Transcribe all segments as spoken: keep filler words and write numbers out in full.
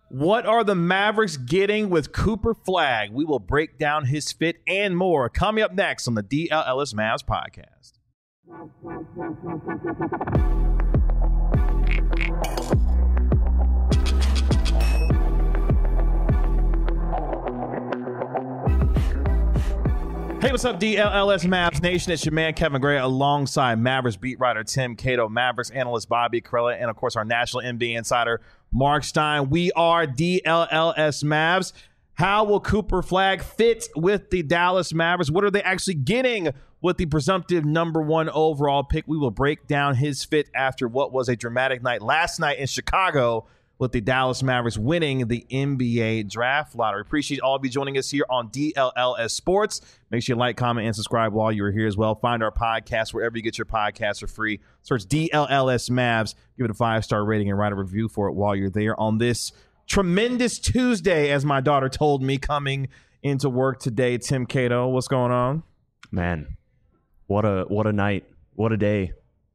What are the Mavericks getting with Cooper Flagg? We will break down his fit and more coming up next on the D L L S Mavs podcast. Hey, what's up, D L L S Mavs Nation? It's your man, Kevin Gray, alongside Mavericks beat writer Tim Cato, Mavericks analyst Bobby Karalla, and, of course, our national N B A insider, Mark Stein. We are D L L S Mavs. How will Cooper Flagg fit with the Dallas Mavericks? What are they actually getting with the presumptive number one overall pick? We will break down his fit after what was a dramatic night last night in Chicago with the Dallas Mavericks winning the N B A draft lottery. Appreciate all of you joining us here on D L L S Sports. Make sure you like, comment, and subscribe while you're here as well. Find our podcast wherever you get your podcasts for free. Search D L L S Mavs. Give it a five-star rating and write a review for it while you're there on this tremendous Tuesday, as my daughter told me coming into work today. Tim Cato, what's going on? Man, what a what a night. What a day.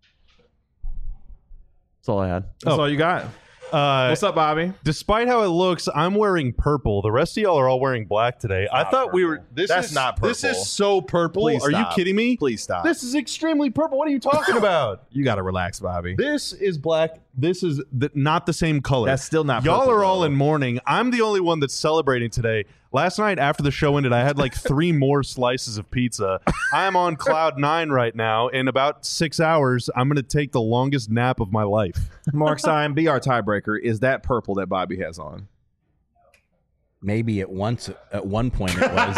That's all I had. That's oh. all you got? Uh, What's up, Bobby? Despite how it looks, I'm wearing purple. The rest of y'all are all wearing black today. I thought purple. we were. This That's is, not purple. This is so purple. Please are stop. you kidding me? Please stop. This is extremely purple. What are you talking about? You got to relax, Bobby. This is black. This is the, not the same color. That's still not Y'all purple, are all though. in mourning. I'm the only one that's celebrating today. Last night after the show ended, I had like three more slices of pizza. I'm on cloud nine right now. In about six hours, I'm going to take the longest nap of my life. Mark Stein, be our tiebreaker. Is that purple that Bobby has on? Maybe at once, at one point it was.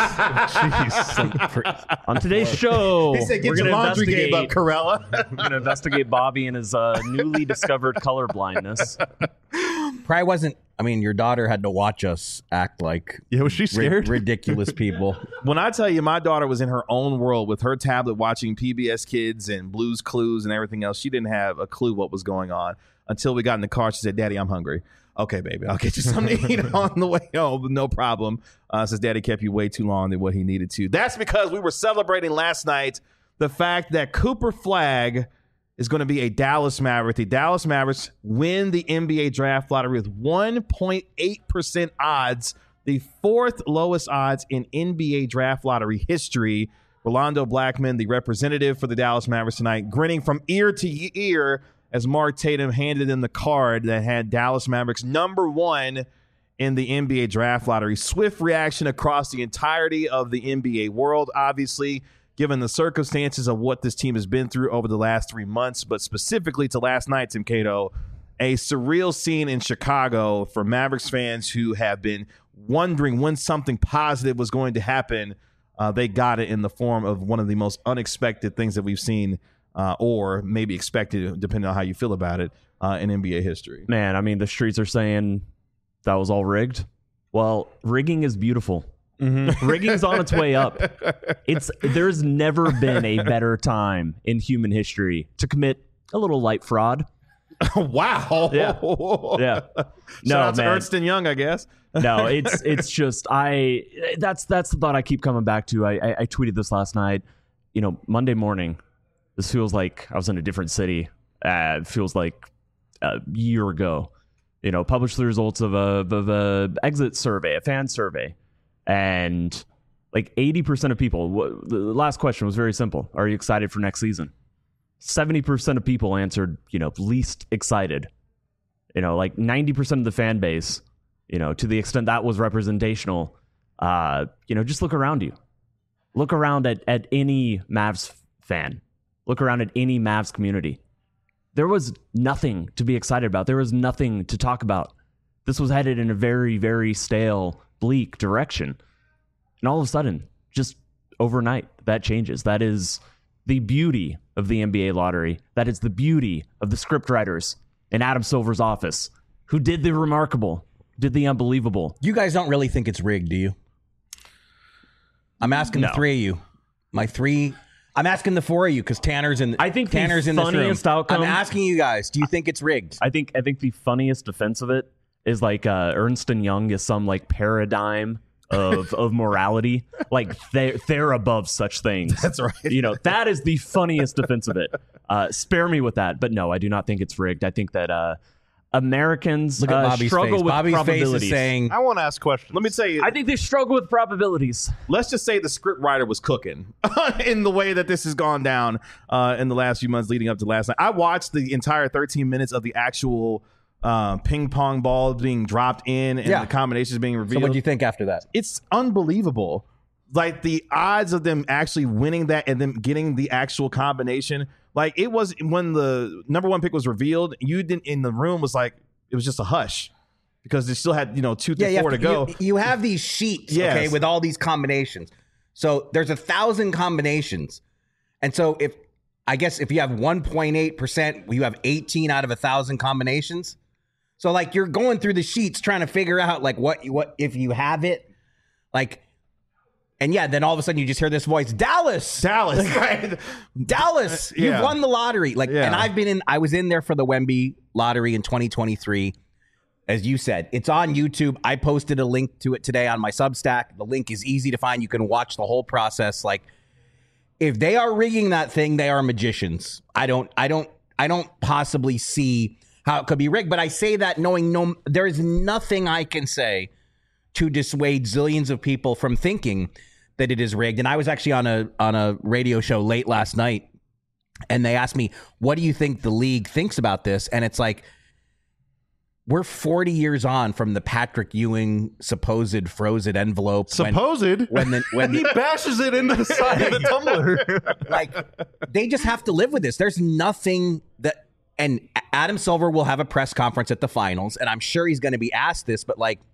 Jeez. For, on today's show, He said, "Get we're your gonna laundry game up, investigate- Karalla." We're going to investigate Bobby and his uh, newly discovered color blindness. Probably wasn't. I mean, your daughter had to watch us act like Yeah, was she ri- scared? ridiculous people. When I tell you my daughter was in her own world with her tablet watching P B S Kids and Blue's Clues and everything else, she didn't have a clue what was going on until we got in the car. She said, "Daddy, I'm hungry." "Okay, baby, I'll get you something to eat on the way home. No problem." Uh, says Daddy kept you way too long than what he needed to. That's because we were celebrating last night the fact that Cooper Flagg is going to be a Dallas Maverick. The Dallas Mavericks win the N B A draft lottery with one point eight percent odds, the fourth lowest odds in N B A draft lottery history. Rolando Blackman, the representative for the Dallas Mavericks tonight, grinning from ear to ear as Mark Tatum handed him the card that had Dallas Mavericks number one in the N B A draft lottery. Swift reaction across the entirety of the N B A world, obviously, given the circumstances of what this team has been through over the last three months, but specifically to last night, Tim Cato, a surreal scene in Chicago for Mavericks fans who have been wondering when something positive was going to happen. Uh, they got it in the form of one of the most unexpected things that we've seen, uh, or maybe expected, depending on how you feel about it, uh, in N B A history. Man, I mean, the streets are saying that was all rigged. Well, rigging is beautiful. Mm-hmm. Rigging's on its way up. It's there's never been a better time in human history to commit a little light fraud. Wow. Yeah. Yeah. Shout No, out to man. Ernst and Young, I guess. No, it's it's just I that's that's the thought I keep coming back to. I, I I tweeted this last night. You know, Monday morning, this feels like I was in a different city. Uh, it feels like a year ago. You know, published the results of a of a exit survey, a fan survey, and like eighty percent of people. Wh- the last question was very simple: are you excited for next season? seventy percent of people answered, you know, least excited. You know, like ninety percent of the fan base. You know, to the extent that was representational, uh, you know, just look around you. Look around at, at any Mavs fan. Look around at any Mavs community. There was nothing to be excited about. There was nothing to talk about. This was headed in a very, very stale, bleak direction. And all of a sudden, just overnight, that changes. That is the beauty of the N B A lottery. That is the beauty of the scriptwriters in Adam Silver's office who did the remarkable. Did the unbelievable. You guys don't really think it's rigged, do you? I'm asking No. the three of you. My three. I'm asking the four of you because Tanner's in. I think the Tanner's in this room. funniest outcome- I'm asking you guys. Do you think it's rigged? I think I think the funniest defense of it is like uh, Ernst and Young is some like paradigm of of morality. Like they they're above such things. That's right. You know, that is the funniest defense of it. Uh, spare me with that. But no, I do not think it's rigged. I think that uh, Americans Look at uh, Bobby's struggle face. with Bobby's face probabilities. is saying, I want to ask questions. Let me tell you. I think they struggle with probabilities. Let's just say the script writer was cooking in the way that this has gone down uh, in the last few months leading up to last night. I watched the entire thirteen minutes of the actual uh, ping pong ball being dropped in and Yeah. the combinations being so revealed. what do you think after that? It's unbelievable. Like the odds of them actually winning that and then getting the actual combination. Like it was when the number one pick was revealed, you didn't in the room was like, it was just a hush because they still had, you know, two through Yeah, four you, to go. you, you have these sheets, Yes. okay, with all these combinations. So there's a thousand combinations. And so if, I guess if you have one point eight percent, you have eighteen out of a thousand combinations. So like you're going through the sheets trying to figure out like what, what if you have it, like, and yeah, then all of a sudden you just hear this voice, Dallas, Dallas, right? Dallas, Yeah. you've won the lottery. Like, Yeah. and I've been in, I was in there for the Wemby lottery in twenty twenty-three. As you said, it's on YouTube. I posted a link to it today on my Substack. The link is easy to find. You can watch the whole process. Like, if they are rigging that thing, they are magicians. I don't, I don't, I don't possibly see how it could be rigged. But I say that knowing no, there is nothing I can say to dissuade zillions of people from thinking that it is rigged. And I was actually on a on a radio show late last night, and they asked me, "What do you think the league thinks about this?" And it's like, we're forty years on from the Patrick Ewing supposed frozen envelope. Supposed? When, when the when he the, bashes it into the side of the tumbler. like they just have to live with this. There's nothing that, and Adam Silver will have a press conference at the finals, and I'm sure he's going to be asked this, but like,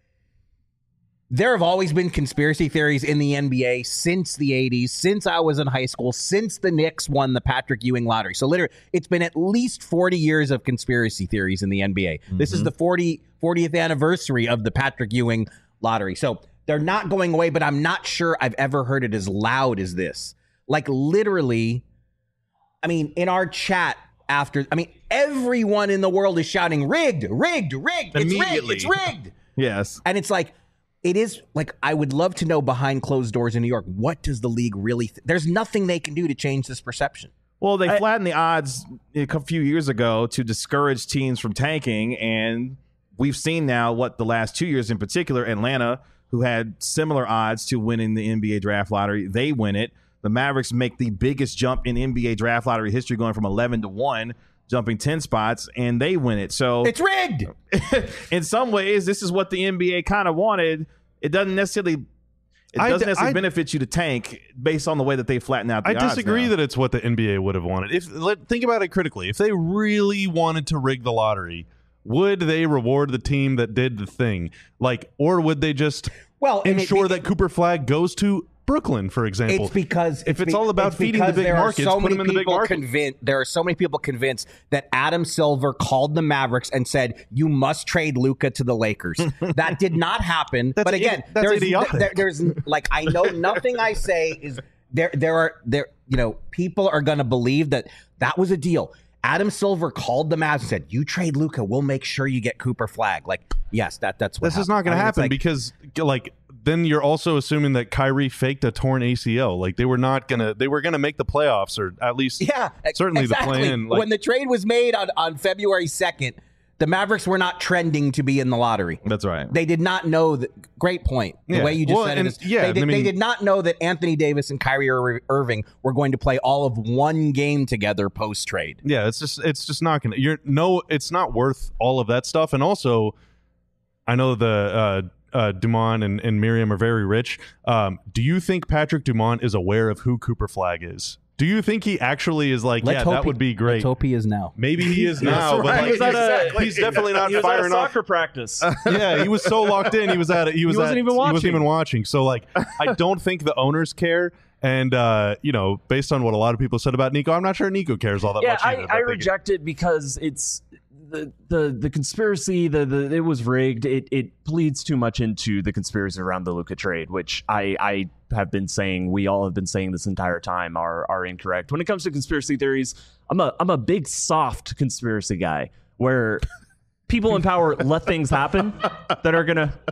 there have always been conspiracy theories in the N B A since the eighties, since I was in high school, since the Knicks won the Patrick Ewing lottery. So literally, it's been at least forty years of conspiracy theories in the N B A. Mm-hmm. This is the fortieth anniversary of the Patrick Ewing lottery. So they're not going away, but I'm not sure I've ever heard it as loud as this. Like literally, I mean, in our chat after, I mean, everyone in the world is shouting, rigged, rigged, rigged, it's rigged, Immediately. it's rigged. Yes. And it's like, it is like, I would love to know behind closed doors in New York, what does the league really, th- there's nothing they can do to change this perception. Well, they I- flattened the odds a cou- few years ago to discourage teams from tanking, and we've seen now what the last two years in particular, Atlanta, who had similar odds to winning the N B A draft lottery, they win it. The Mavericks make the biggest jump in N B A draft lottery history, going from eleven to one, jumping ten spots, and they win it. So It's rigged. in some ways, this is what the N B A kind of wanted. It doesn't necessarily it I doesn't d- necessarily I- benefit you to tank based on the way that they flatten out the I odds disagree now. that it's what the N B A would have wanted. If let, think about it critically, if they really wanted to rig the lottery, would they reward the team that did the thing? Like, or would they just Well, and it- ensure it- that Cooper Flag goes to Brooklyn, for example? It's because if it's be- all about it's feeding the because big there are markets, so put many them in the big people market. convinced. There are so many people convinced that Adam Silver called the Mavericks and said, "You must trade Luka to the Lakers." That did not happen. That's but again, idi- that's there's, idiotic. there- there's like I know nothing I say is there. There are there. You know, people are going to believe that that was a deal. Adam Silver called the Mavs and said, "You trade Luka, we'll make sure you get Cooper Flag." Like, yes, that that's what This is happened. not going I to mean, it's happen like- because, like, then you're also assuming that Kyrie faked a torn A C L. Like, they were not gonna, they were gonna make the playoffs, or at least, Yeah, ex- certainly exactly. the plan. Like, when the trade was made on, on February second, the Mavericks were not trending to be in the lottery. That's right. They did not know that. Great point. The Yeah. way you just Well, said and- it is, yeah, they, did, I mean- they did not know that Anthony Davis and Kyrie Ir- Irving were going to play all of one game together post trade. yeah, it's just, it's just not gonna. You're no, it's not worth all of that stuff. And also, I know the. uh Uh, Dumont and, and Miriam are very rich. Um, do you think Patrick Dumont is aware of who Cooper Flag is? Do you think he actually is like, Let's yeah, hope that he- would be great? Let's hope he is now. Maybe he is now, but right. like, He was at a- exactly. he's definitely not He was at a firing off. soccer practice. Yeah, he was so locked in. He was at it. He was wasn't at, even He wasn't watching. even watching. So like, I don't think the owners care. And uh, you know, based on what a lot of people said about Nico, I'm not sure Nico cares all that yeah, much. I, either, I but they- reject it because it's the the the conspiracy. The, the it was rigged. It it bleeds too much into the conspiracy around the Luka trade, which I I have been saying. We all have been saying this entire time are are incorrect. When it comes to conspiracy theories, I'm a I'm a big soft conspiracy guy where people in power let things happen that are gonna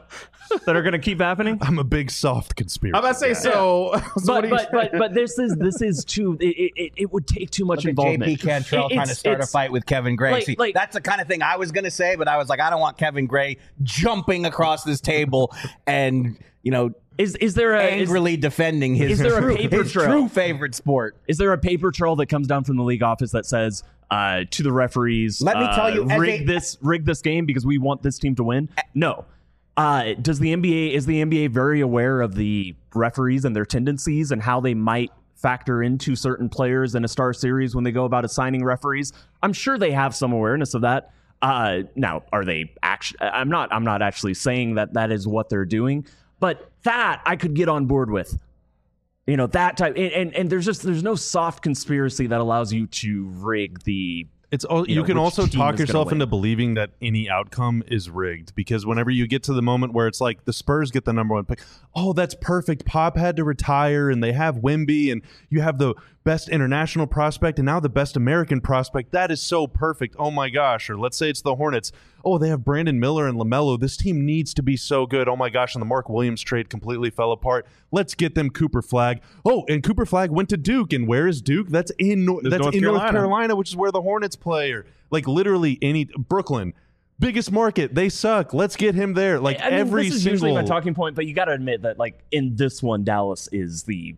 that are going to keep happening. I'm a big soft conspiracy. I'm about to say guy. so. so what But do you- but, but but this is this is too. It, it, it would take too much Look at involvement. J P Cantrell It- trying to it's- start a it's- fight with Kevin Gray. like- See, like- that's the kind of thing I was going to say, but I was like, I don't want Kevin Gray jumping across this table and, you know, Is is there a is, angrily defending his, is there a true, paper his trail? true favorite sport. is there a paper trail that comes down from the league office that says uh, to the referees? Let me uh, tell you, as rig a- this rig this game because we want this team to win. No. Uh, does the N B A is the N B A very aware of the referees and their tendencies and how they might factor into certain players in a star series when they go about assigning referees? I'm sure they have some awareness of that. Uh, now, are they actually? I'm not. I'm not actually saying that that is what they're doing, but that I could get on board with. You know, that type, and, and and there's just there's no soft conspiracy that allows you to rig the. It's all, you you know, can which also team talk is gonna yourself win. into believing that any outcome is rigged, because whenever you get to the moment where it's like the Spurs get the number one pick, oh, that's perfect. Pop had to retire, and they have Wemby, and you have the best international prospect, and now the best American prospect. That is so perfect. Oh my gosh! Or let's say it's the Hornets. Oh, they have Brandon Miller and LaMelo. This team needs to be so good. Oh my gosh! And the Mark Williams trade completely fell apart. Let's get them Cooper Flagg. Oh, and Cooper Flagg went to Duke, and where is Duke? That's in Nor- that's North in North Carolina. Carolina, which is where the Hornets play. Or like literally any Brooklyn, biggest market. They suck. Let's get him there. Like I mean, every this is single. usually my talking point, but you got to admit that, like in this one, Dallas is the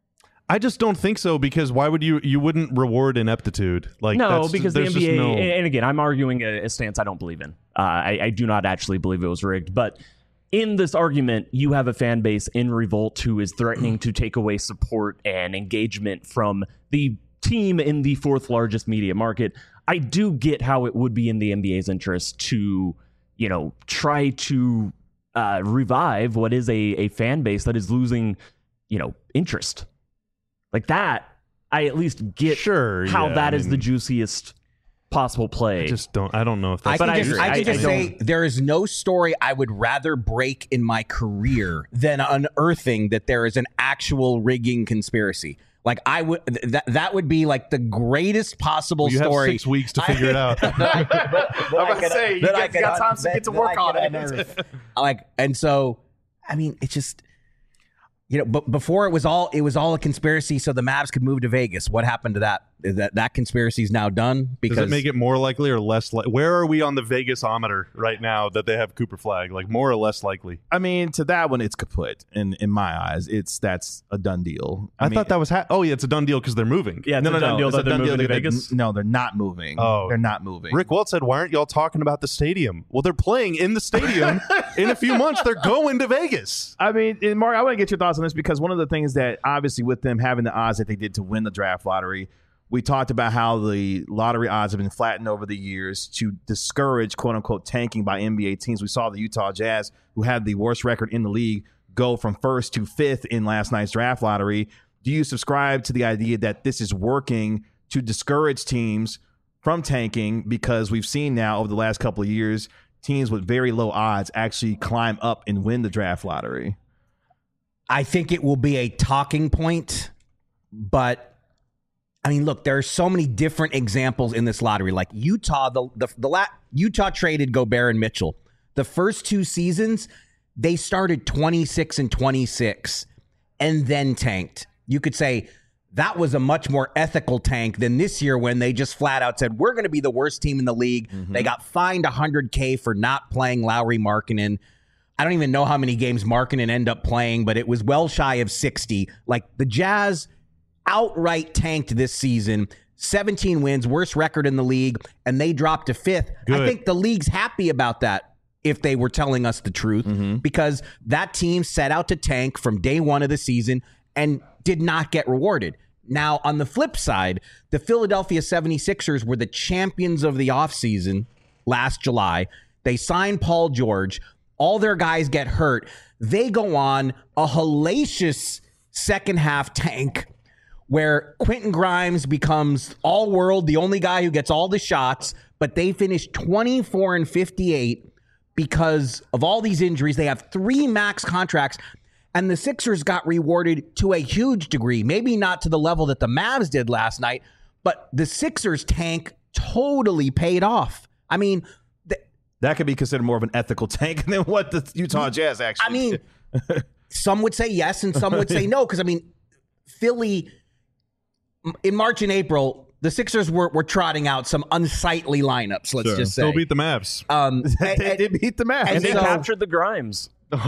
I just don't think so, because why would you? You wouldn't reward ineptitude. Like no, that's, because the there's N B A, just no- and and again, I'm arguing a, a stance I don't believe in. Uh, I, I do not actually believe it was rigged, but in this argument, you have a fan base in revolt who is threatening to take away support and engagement from the team in the fourth largest media market. I do get how it would be in the N B A's interest to, you know, try to uh, revive what is a, a fan base that is losing, you know, interest. Like that, I at least get Sure, how yeah, that I is the mean- juiciest possible play. I just don't. I don't know if I that's. But can I just, agree. I can I- just I say there is no story I would rather break in my career than unearthing that there is an actual rigging conspiracy. Like I would, th- that that would be like the greatest possible you have story. six weeks to figure it out. that I- that- that I about to could- say, you that I get- could got un- time to that- get to that work I on could it. unearth. Like, and so, I mean, it just, you know, but before it was all it was all a conspiracy, so the Mavs could move to Vegas. What happened to that? Is that that conspiracy is now done? Because Does it make it more likely or less likely? Where are we on the Vegas-ometer right now that they have Cooper Flagg? Like more or less likely? I mean, to that one, it's kaput. In in my eyes, it's that's a done deal. I, mean, thought that was. Ha- oh yeah, it's a done deal because they're moving. yeah, it's no, a no, done no. deal It's that a they're done deal. moving to that- Vegas. No, they're not moving. Oh. they're not moving. Rick Walt said, "Why aren't y'all talking about the stadium?" Well, they're playing in the stadium. In a few months, they're going to Vegas. I mean, and Mark, I want to get your thoughts on this because one of the things that obviously with them having the odds that they did to win the draft lottery, we talked about how the lottery odds have been flattened over the years to discourage quote unquote tanking by N B A teams. We saw the Utah Jazz, who had the worst record in the league, go from first to fifth in last night's draft lottery. Do you subscribe to the idea that this is working to discourage teams from tanking? Because we've seen now over the last couple of years, teams with very low odds actually climb up and win the draft lottery. I think it will be a talking point, but I mean, look, there are so many different examples in this lottery. Like Utah, the the, the la- Utah traded Gobert and Mitchell. The first two seasons, they started twenty-six and twenty-six and then tanked. You could say that was a much more ethical tank than this year when they just flat out said, we're going to be the worst team in the league. Mm-hmm. They got fined one hundred K for not playing Lowry Markkanen. I don't even know how many games Markkanen ended up playing, but it was well shy of sixty. Like the Jazz outright tanked this season, seventeen wins, worst record in the league, and they dropped to fifth. Good. I think the league's happy about that if they were telling us the truth, mm-hmm. because that team set out to tank from day one of the season and did not get rewarded. Now, on the flip side, the Philadelphia seventy-sixers were the champions of the offseason last July. They signed Paul George. All their guys get hurt. They go on a hellacious second half tank where Quentin Grimes becomes all world, the only guy who gets all the shots, but they finish twenty-four and fifty-eight because of all these injuries. They have three max contracts, and the Sixers got rewarded to a huge degree, maybe not to the level that the Mavs did last night, but the Sixers tank totally paid off. I mean, th- That could be considered more of an ethical tank than what the Utah Jazz actually I mean, did. some would say yes and some would say no, because, I mean, Philly, in March and April, the Sixers were, were trotting out some unsightly lineups, let's Sure. just say. Still beat the Mavs. Um, they and, did beat the Mavs. and And they so- captured the Grimes.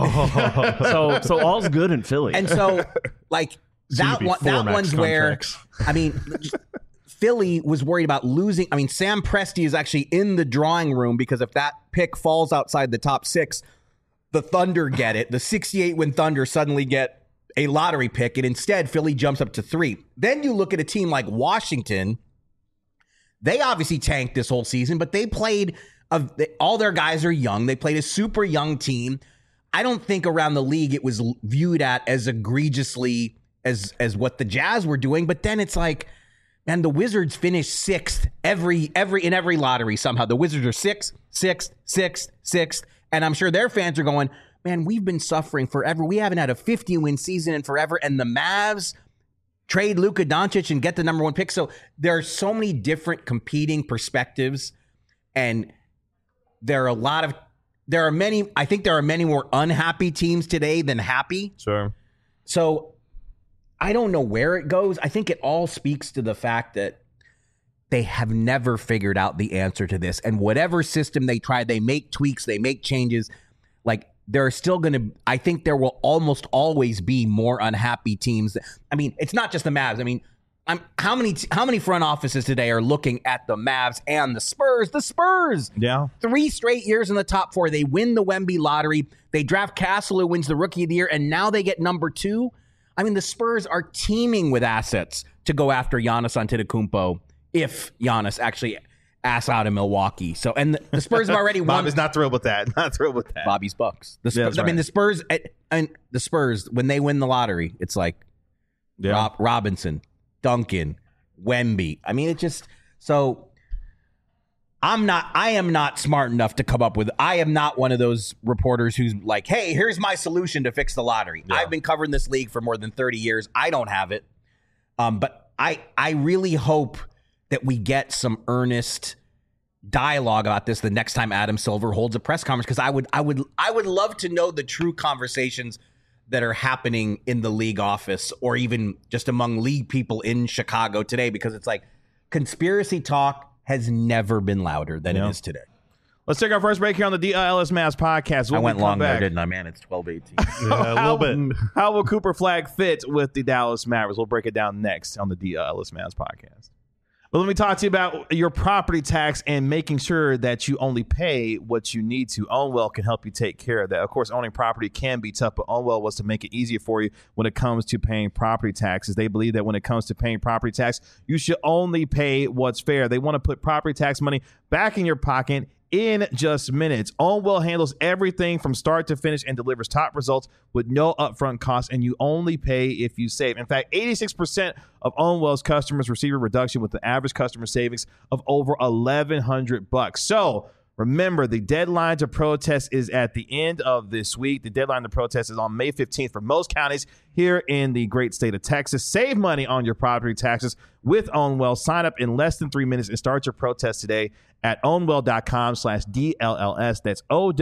so so all's good in Philly. and so, like, Soon to that be one, four that max one's where, contracts. I mean, Philly was worried about losing. I mean, Sam Presti is actually in the drawing room because if that pick falls outside the top six, the Thunder get it. The sixty-eight win Thunder suddenly get a lottery pick, and instead Philly jumps up to three. Then you look at a team like Washington. They obviously tanked this whole season, but they played, a, all their guys are young. They played a super young team. I don't think around the league it was viewed at as egregiously as as what the Jazz were doing. But then it's like, man, the Wizards finished sixth every every in every lottery somehow. The Wizards are sixth, sixth, sixth, sixth, and I'm sure their fans are going, man, we've been suffering forever. We haven't had a fifty win season in forever, and the Mavs trade Luka Doncic and get the number one pick. So there are so many different competing perspectives, and there are a lot of there are many. I think there are many more unhappy teams today than happy. Sure. So I don't know where it goes. I think it all speaks to the fact that they have never figured out the answer to this. And whatever system they try, they make tweaks, they make changes. Like, there are still going to, I think there will almost always be more unhappy teams. I mean, it's not just the Mavs. I mean, I'm, how many how many front offices today are looking at the Mavs and the Spurs? The Spurs. Yeah. Three straight years in the top four. They win the Wemby lottery. They draft Castle, who wins the Rookie of the Year, and now they get number two. I mean, the Spurs are teeming with assets to go after Giannis Antetokounmpo if Giannis actually asks out in Milwaukee. So, and the, the Spurs have already won. Bob is not thrilled with that. Not thrilled with that. Bobby's Bucks. The Spurs, Yeah, that's I mean, right. the Spurs and the Spurs, when they win the lottery, it's like Yeah. Rob, Robinson, Duncan, Wemby. I mean, it just so. I'm not. I am not smart enough to come up with. I am not one of those reporters who's like, "Hey, here's my solution to fix the lottery." Yeah. I've been covering this league for more than thirty years. I don't have it. Um, but I, I really hope that we get some earnest dialogue about this the next time Adam Silver holds a press conference, because I would, I would, I would love to know the true conversations that are happening in the league office or even just among league people in Chicago today, because it's like conspiracy talk has never been louder than Yeah. it is today. Let's take our first break here on the D L L S Mavs podcast. When I we went come long there, back, didn't I, man? It's twelve eighteen. Yeah, a little bit. How will Cooper Flag fit with the Dallas Mavericks? We'll break it down next on the D L S Mavs podcast. But let me talk to you about your property tax and making sure that you only pay what you need to. Ownwell can help you take care of that. Of course, owning property can be tough, but Ownwell was to make it easier for you when it comes to paying property taxes. They believe that when it comes to paying property tax, you should only pay what's fair. They want to put property tax money back in your pocket in just minutes. Ownwell handles everything from start to finish and delivers top results with no upfront costs, and you only pay if you save. In fact, eighty-six percent of Ownwell's customers receive a reduction with the average customer savings of over eleven hundred bucks. So remember, the deadline to protest is at the end of this week. The deadline to protest is on May fifteenth for most counties here in the great state of Texas. Save money on your property taxes with Ownwell. Sign up in less than three minutes and start your protest today at ownwell.com slash DLLS. That's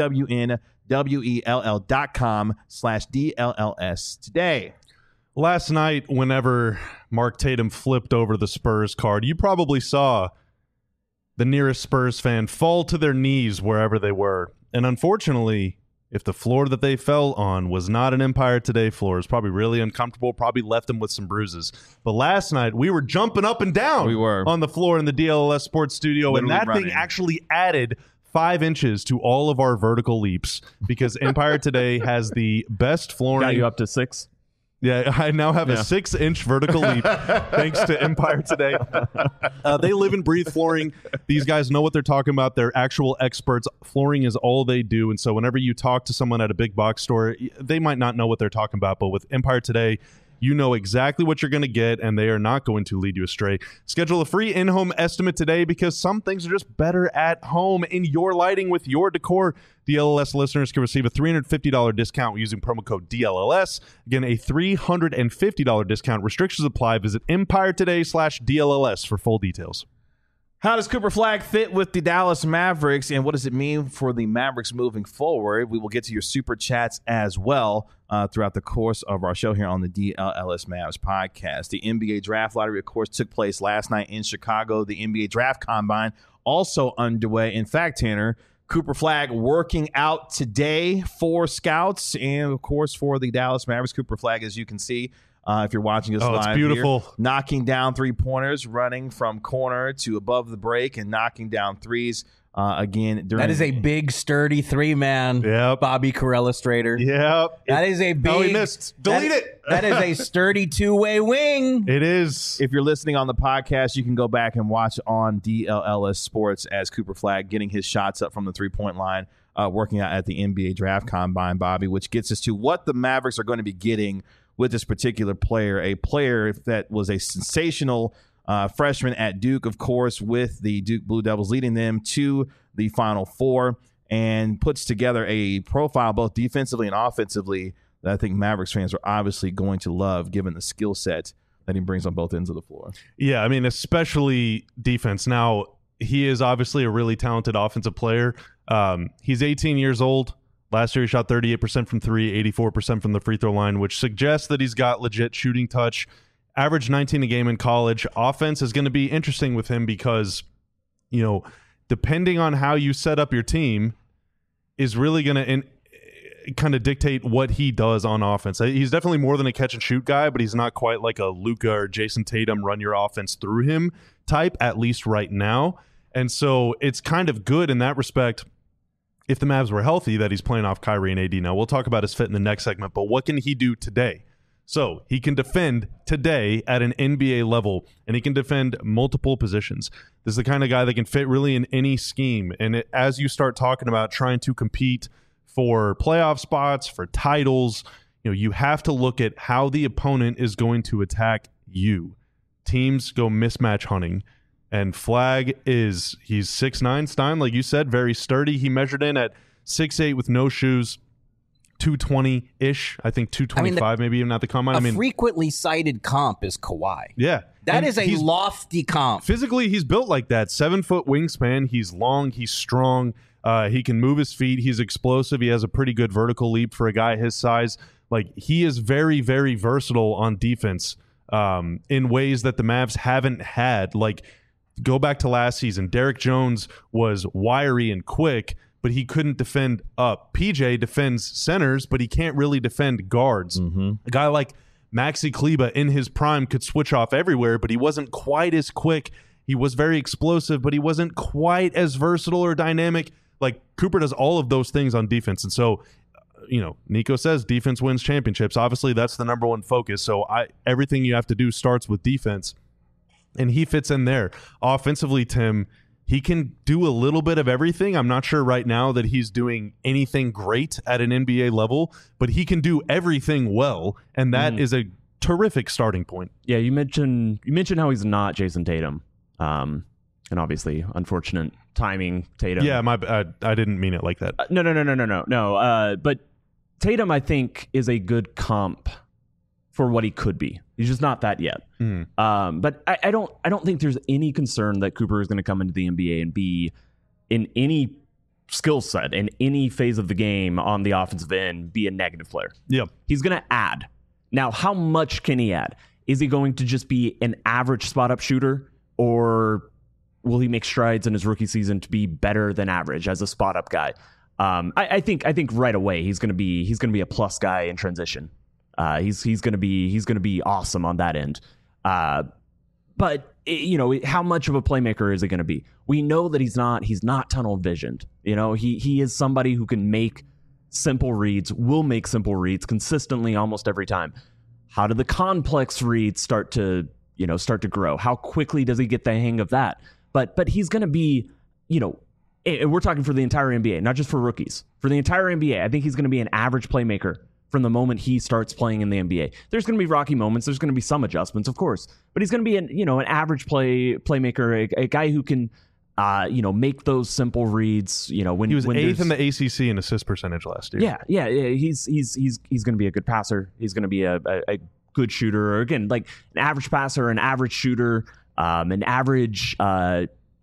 O-W-N-W-E-L-L dot com slash D-L-L-S today. Last night, whenever Mark Tatum flipped over the Spurs card, you probably saw the nearest Spurs fan fall to their knees wherever they were. And unfortunately, if the floor that they fell on was not an Empire Today floor, it's probably really uncomfortable, probably left them with some bruises. But last night, we were jumping up and down We were. on the floor in the D L L S Sports Studio, Literally and that running. thing actually added five inches to all of our vertical leaps because Empire Today has the best flooring. Got you up to six. Yeah, I now have Yeah. a six-inch vertical leap thanks to Empire Today. Uh, they live and breathe flooring. These guys know what they're talking about. They're actual experts. Flooring is all they do. And so whenever you talk to someone at a big box store, they might not know what they're talking about. But with Empire Today, you know exactly what you're going to get, and they are not going to lead you astray. Schedule a free in-home estimate today because some things are just better at home in your lighting with your decor. D L L S listeners can receive a three hundred fifty dollars discount using promo code D L L S. Again, a three hundred fifty dollars discount. Restrictions apply. Visit Empire Today slash D L L S for full details. How does Cooper Flagg fit with the Dallas Mavericks, and what does it mean for the Mavericks moving forward? We will get to your super chats as well uh, throughout the course of our show here on the D L L S Mavs podcast. The N B A Draft Lottery, of course, took place last night in Chicago. The N B A Draft Combine also underway. In fact, Tanner, Cooper Flagg working out today for scouts and, of course, for the Dallas Mavericks. Cooper Flagg, as you can see, Uh, if you're watching us oh, live it's beautiful. here, knocking down three-pointers, running from corner to above the break, and knocking down threes uh, again. During That is a big, sturdy three-man Yep. Bobby Carell Strader. Yep. That is a big... Oh, he missed. Delete that, it. That is a sturdy two-way wing. It is. If you're listening on the podcast, you can go back and watch on D L L S Sports as Cooper Flagg getting his shots up from the three-point line, uh, working out at the N B A Draft Combine, Bobby, which gets us to what the Mavericks are going to be getting with this particular player, a player that was a sensational uh, freshman at Duke, of course, with the Duke Blue Devils leading them to the Final Four, and puts together a profile both defensively and offensively that I think Mavericks fans are obviously going to love, given the skill set that he brings on both ends of the floor. Yeah, I mean, especially defense. Now, he is obviously a really talented offensive player. Um, he's eighteen years old. Last year, he shot thirty-eight percent from three, eighty-four percent from the free throw line, which suggests that he's got legit shooting touch. Averaged nineteen a game in college. Offense is going to be interesting with him because, you know, depending on how you set up your team is really going to kind of dictate what he does on offense. He's definitely more than a catch and shoot guy, but he's not quite like a Luka or Jason Tatum run your offense through him type, at least right now. And so it's kind of good in that respect. If the Mavs were healthy, that he's playing off Kyrie and A D. Now, we'll talk about his fit in the next segment, but what can he do today? So he can defend today at an N B A level, and he can defend multiple positions. This is the kind of guy that can fit really in any scheme. And it, as you start talking about trying to compete for playoff spots, for titles, you know, you have to look at how the opponent is going to attack you. Teams go mismatch hunting. And Flagg is, he's six nine, Stein, like you said, very sturdy. He measured in at six eight with no shoes, two twenty-ish. I think two twenty-five, I mean, the, maybe even at the combine. A I mean, frequently cited comp is Kawhi. Yeah. That and is a lofty comp. Physically, he's built like that. Seven-foot wingspan. He's long. He's strong. Uh, he can move his feet. He's explosive. He has a pretty good vertical leap for a guy his size. Like, he is very, very versatile on defense um, in ways that the Mavs haven't had. Like, go back to last season. Derek Jones was wiry and quick, but he couldn't defend up. P J defends centers, but he can't really defend guards. Mm-hmm. A guy like Maxi Kleber in his prime could switch off everywhere, but he wasn't quite as quick. He was very explosive, but he wasn't quite as versatile or dynamic. Like, Cooper does all of those things on defense. And so, you know, Nico says defense wins championships. Obviously, that's the number one focus. So I everything you have to do starts with defense. And he fits in there. Offensively, Tim, he can do a little bit of everything. I'm not sure right now that he's doing anything great at an N B A level, but he can do everything well, and that mm. is a terrific starting point. Yeah, you mentioned you mentioned how he's not Jason Tatum, um, and obviously, unfortunate timing, Tatum. Yeah, my I, I didn't mean it like that. Uh, no, no, no, no, no, no, no. Uh, but Tatum, I think, is a good comp for what he could be. He's just not that yet. Mm. Um, but I, I don't I don't think there's any concern that Cooper is going to come into the N B A and be in any skill set, in any phase of the game on the offensive end, be a negative player. Yep. He's going to add. Now, how much can he add? Is he going to just be an average spot-up shooter, or will he make strides in his rookie season to be better than average as a spot-up guy? Um, I, I think I think right away he's going to be he's going to be a plus guy in transition. Uh, he's he's going to be he's going to be awesome on that end. Uh, but you know, how much of a playmaker is he going to be? We know that he's not he's not tunnel visioned. You know, he he is somebody who can make simple reads, will make simple reads consistently almost every time. How do the complex reads start to you know start to grow? How quickly does he get the hang of that? But but he's going to be, you know, we're talking for the entire N B A, not just for rookies. For the entire N B A, I think he's going to be an average playmaker from the moment he starts playing in the N B A. There's going to be rocky moments. There's going to be some adjustments, of course, but he's going to be an, you know, an average play playmaker, a, a guy who can, uh, you know, make those simple reads. You know, when he was when eighth in the A C C in assist percentage last year. Yeah, yeah, yeah. He's he's he's he's going to be a good passer. He's going to be a, a, a good shooter, or again, like an average passer, an average shooter, um, an average, uh,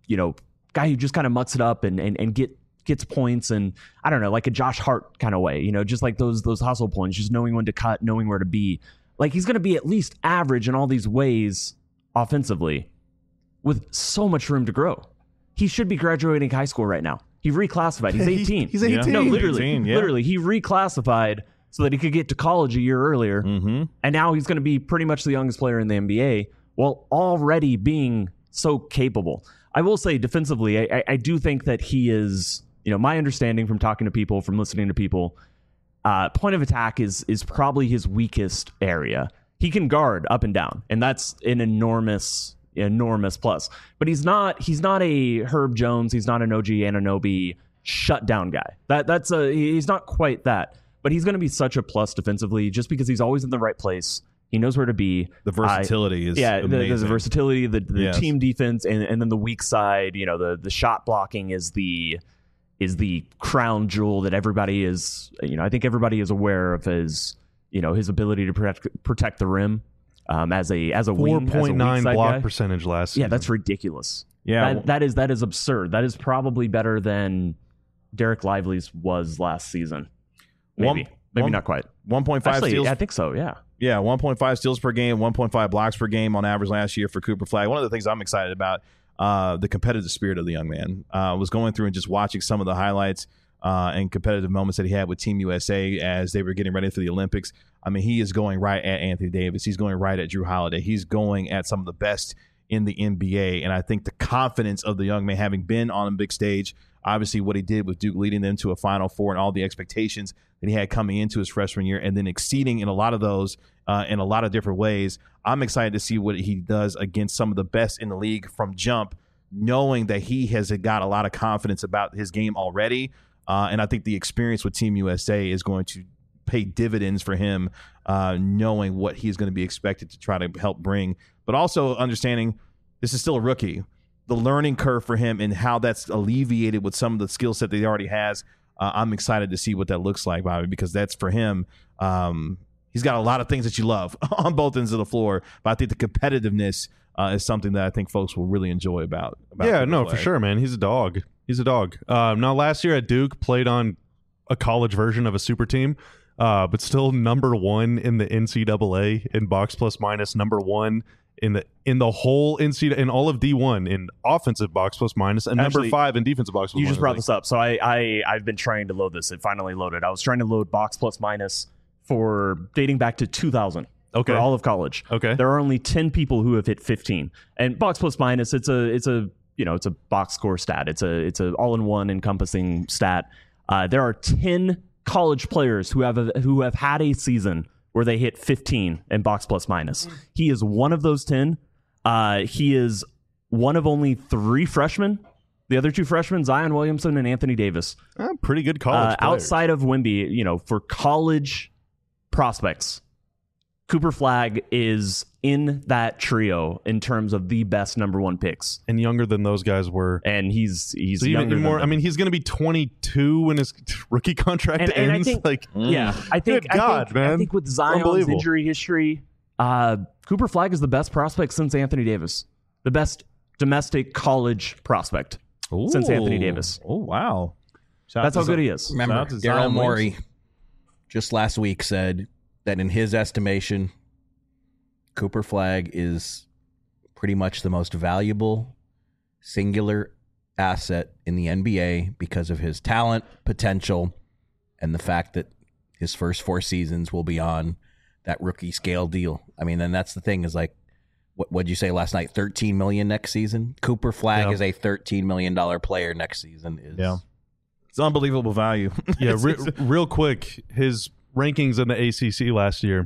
you know, guy who just kind of mucks it up and and, and get gets points, and I don't know, like a Josh Hart kind of way, you know, just like those those hustle points, just knowing when to cut, knowing where to be. Like he's going to be at least average in all these ways offensively with so much room to grow. He should be graduating high school right now. He reclassified. He's eighteen. He's eighteen. No, literally, eighteen, yeah. literally, he reclassified so that he could get to college a year earlier. Mm-hmm. And now he's going to be pretty much the youngest player in the N B A while already being so capable. I will say defensively, I, I do think that he is, you know, my understanding from talking to people, from listening to people, uh, point of attack is is probably his weakest area. He can guard up and down, and that's an enormous, enormous plus. But he's not he's not a Herb Jones. He's not an O G Anunoby shutdown guy. That that's a he's not quite that. But he's going to be such a plus defensively just because he's always in the right place. He knows where to be. The versatility uh, is yeah. The, amazing. the versatility, the, the Yes. team defense, and, and then the weak side. You know, the the shot blocking is the is the crown jewel that everybody is. You know, I think everybody is aware of his you know his ability to protect protect the rim um, as a as a Four wing, as a point weak nine side block guy. percentage last season. Yeah, that's ridiculous. Yeah. that, that is that is absurd. That is probably better than Derek Lively's was last season. Maybe, One- maybe one- not quite. one point five Actually, steals. I think so. Yeah. Yeah, one point five steals per game, one point five blocks per game on average last year for Cooper Flagg. One of the things I'm excited about, uh, the competitive spirit of the young man. Uh, was going through and just watching some of the highlights uh, and competitive moments that he had with Team U S A as they were getting ready for the Olympics. I mean, he is going right at Anthony Davis. He's going right at Drew Holiday. He's going at some of the best in the N B A. And I think the confidence of the young man, having been on a big stage, obviously what he did with Duke, leading them to a Final Four, and all the expectations that he had coming into his freshman year, and then exceeding in a lot of those uh, in a lot of different ways. I'm excited to see what he does against some of the best in the league from jump, knowing that he has got a lot of confidence about his game already. Uh, and I think the experience with Team U S A is going to pay dividends for him, uh, knowing what he's going to be expected to try to help bring, but also understanding this is still a rookie. The learning curve for him and how that's alleviated with some of the skill set that he already has. Uh, I'm excited to see what that looks like, Bobby, because that's for him. Um, he's got a lot of things that you love on both ends of the floor, but I think the competitiveness uh, is something that I think folks will really enjoy about. about yeah, Cooper no, Flagg. for sure, man. He's a dog. He's a dog. Um, now, last year at Duke, played on a college version of a super team, uh, but still number one in the N C double A in box plus minus, number one in the in the whole N C in all of D one in offensive box plus minus, and Actually, number five in defensive box plus You minus. just brought this up, so I, I I've been trying to load this. It finally loaded. I was trying to load box plus minus for dating back to two thousand. Okay. For all of college. Okay. There are only ten people who have hit fifteen. And box plus minus, it's a it's a you know it's a box score stat. It's a it's a all in one encompassing stat. Uh, there are ten college players who have a, who have had a season where they hit fifteen in box plus minus. He is one of those ten. Uh, he is one of only three freshmen. The other two freshmen, Zion Williamson and Anthony Davis. Uh, pretty good college Uh, players. outside of Wemby, you know, for college prospects, Cooper Flagg is in that trio in terms of the best number one picks, and younger than those guys were. and he's he's So even younger than more. them. I mean, he's going to be twenty-two when his rookie contract And- and I ends. think- like, yeah, I think Good God, I think, man. I think with Zion's Unbelievable. injury history, uh, Cooper Flagg is the best prospect since Anthony Davis, the best domestic college prospect since Anthony Ooh. Davis. Oh, wow. Shout That's out how to good he Zion- is. Remember, Shout out to Daryl Zion Morey Williamson. just last week said that in his estimation, Cooper Flagg is pretty much the most valuable singular asset in the N B A because of his talent, potential, and the fact that his first four seasons will be on that rookie scale deal. I mean, and that's the thing is like, what what'd you say last night? thirteen million next season. Cooper Flagg Yeah. is a thirteen million dollar player next season. Is Yeah. It's unbelievable value. yeah, It's- re- it's- real quick, his rankings in the A C C last year: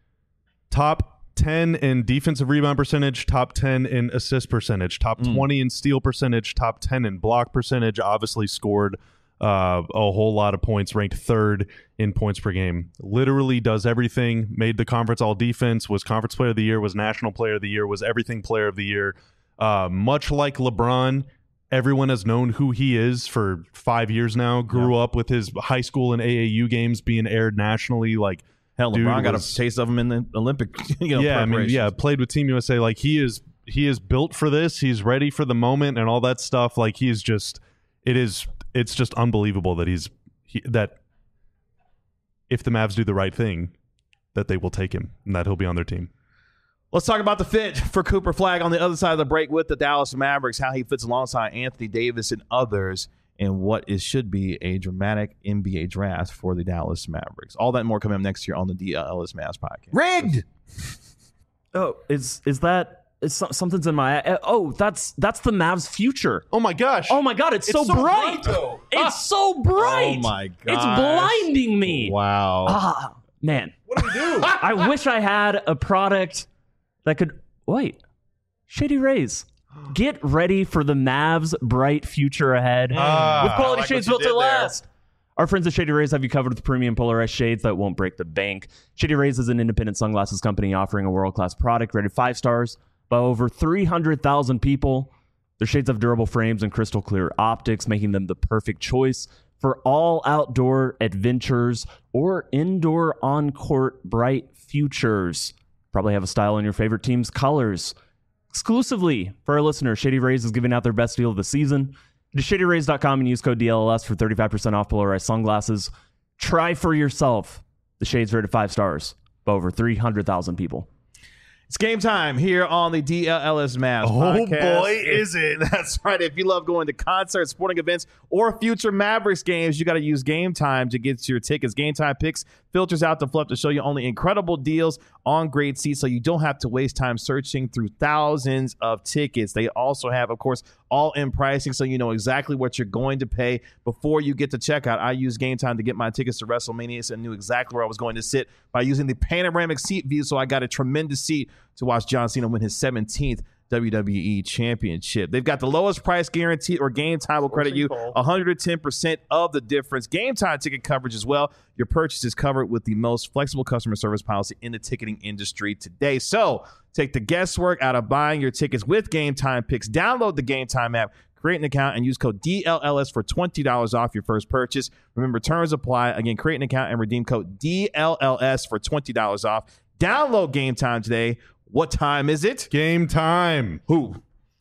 top ten in defensive rebound percentage, top ten in assist percentage, top Mm. twenty in steal percentage, top ten in block percentage. Obviously scored uh, a whole lot of points, ranked third in points per game. Literally does everything. Made the conference all defense. Was conference player of the year. Was national player of the year. Was everything player of the year. Uh, much like LeBron, everyone has known who he is for five years now. Grew up with his high school and A A U games being aired nationally. Like, Hell, dude LeBron got was- a taste of him in the Olympic. You know, yeah, I mean, preparations. yeah, played with Team U S A. Like, he is he is built for this. He's ready for the moment and all that stuff. Like he is just, it is, it's just unbelievable that he's he, that if the Mavs do the right thing, that they will take him and that he'll be on their team. Let's talk about the fit for Cooper Flagg on the other side of the break with the Dallas Mavericks, how he fits alongside Anthony Davis and others, and what is should be a dramatic N B A draft for the Dallas Mavericks. All that and more coming up next year on the D L L S Mavs podcast. Rigged. Oh, is is that is so, something's in my uh, oh that's that's the Mavs' future. Oh my gosh! Oh my god, it's, It's so, so bright. bright, though. It's so bright. Oh my It's gosh. blinding me. Wow. Ah, man. What do we do? I wish I had a product that could wait. Shady Rays. Get ready for the Mavs' bright future ahead Ah, with quality I like shades what you built to did there. last. Our friends at Shady Rays have you covered with premium polarized shades that won't break the bank. Shady Rays is an independent sunglasses company offering a world-class product rated five stars by over three hundred thousand people. Their shades have durable frames and crystal clear optics, making them the perfect choice for all outdoor adventures or indoor on-court bright futures. Probably have a style in your favorite team's colors. Exclusively for our listeners, Shady Rays is giving out their best deal of the season. Go to shady rays dot com and use code D L L S for thirty-five percent off polarized sunglasses. Try for yourself. The shades rated five stars by over three hundred thousand people. It's game time here on the D L L S Mavs Oh, podcast. boy, is it. That's right. If you love going to concerts, sporting events, or future Mavericks games, you got to use Game Time to get your tickets. Game Time picks filters out the fluff to show you only incredible deals on great seats, so you don't have to waste time searching through thousands of tickets. They also have, of course, all-in pricing, so you know exactly what you're going to pay before you get to checkout. I used Game Time to get my tickets to WrestleMania and knew exactly where I was going to sit by using the panoramic seat view, so I got a tremendous seat to watch John Cena win his seventeenth W W E Championship. They've got the lowest price guarantee, or Game Time will credit you one hundred ten percent of the difference. Game Time ticket coverage as well. Your purchase is covered with the most flexible customer service policy in the ticketing industry today. So take the guesswork out of buying your tickets with Game Time picks. Download the Game Time app, create an account, and use code D L L S for twenty dollars off your first purchase. Remember, terms apply. Again, create an account and redeem code D L L S for twenty dollars off. Download Game Time today. What time is it? Game time. Who?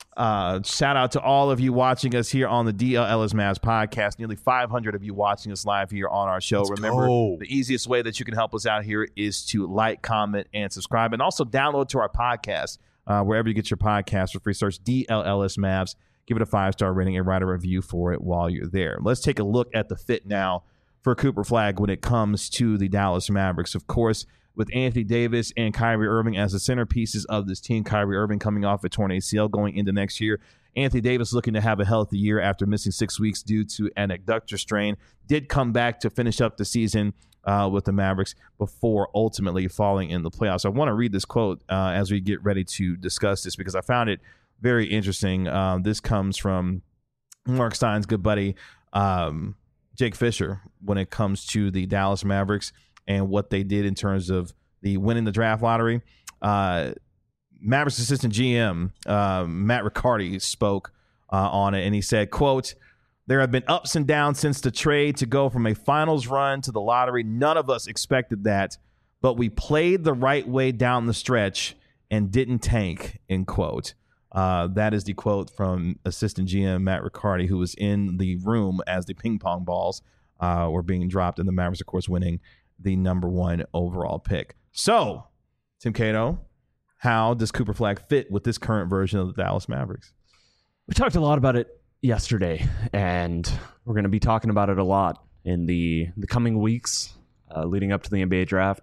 Uh, shout out to all of you watching us here on the D L L S Mavs podcast. Nearly five hundred of you watching us live here on our show. Let's Remember, go. the easiest way that you can help us out here is to like, comment, and subscribe. And also download to our podcast, uh, wherever you get your podcast for free. Search D L L S Mavs. Give it a five-star rating and write a review for it while you're there. Let's take a look at the fit now for Cooper Flagg when it comes to the Dallas Mavericks. Of course, with Anthony Davis and Kyrie Irving as the centerpieces of this team. Kyrie Irving coming off a torn A C L going into next year. Anthony Davis looking to have a healthy year after missing six weeks due to an adductor strain. Did come back to finish up the season uh, with the Mavericks before ultimately falling in the playoffs. I want to read this quote uh, as we get ready to discuss this because I found it very interesting. Uh, this comes from Mark Stein's good buddy, um, Jake Fisher, when it comes to the Dallas Mavericks and what they did in terms of the winning the draft lottery. Uh, Mavericks assistant G M, uh, Matt Riccardi, spoke uh, on it, and he said, quote, "There have been ups and downs since the trade to go from a finals run to the lottery. None of us expected that, but we played the right way down the stretch and didn't tank," end quote. Uh, that is the quote from assistant G M Matt Riccardi, who was in the room as the ping pong balls uh, were being dropped, and the Mavericks, of course, winning the number one overall pick. So, Tim Cato, how does Cooper Flagg fit with this current version of the Dallas Mavericks? We talked a lot about it yesterday, and we're going to be talking about it a lot in the, the coming weeks uh, leading up to the N B A draft.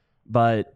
But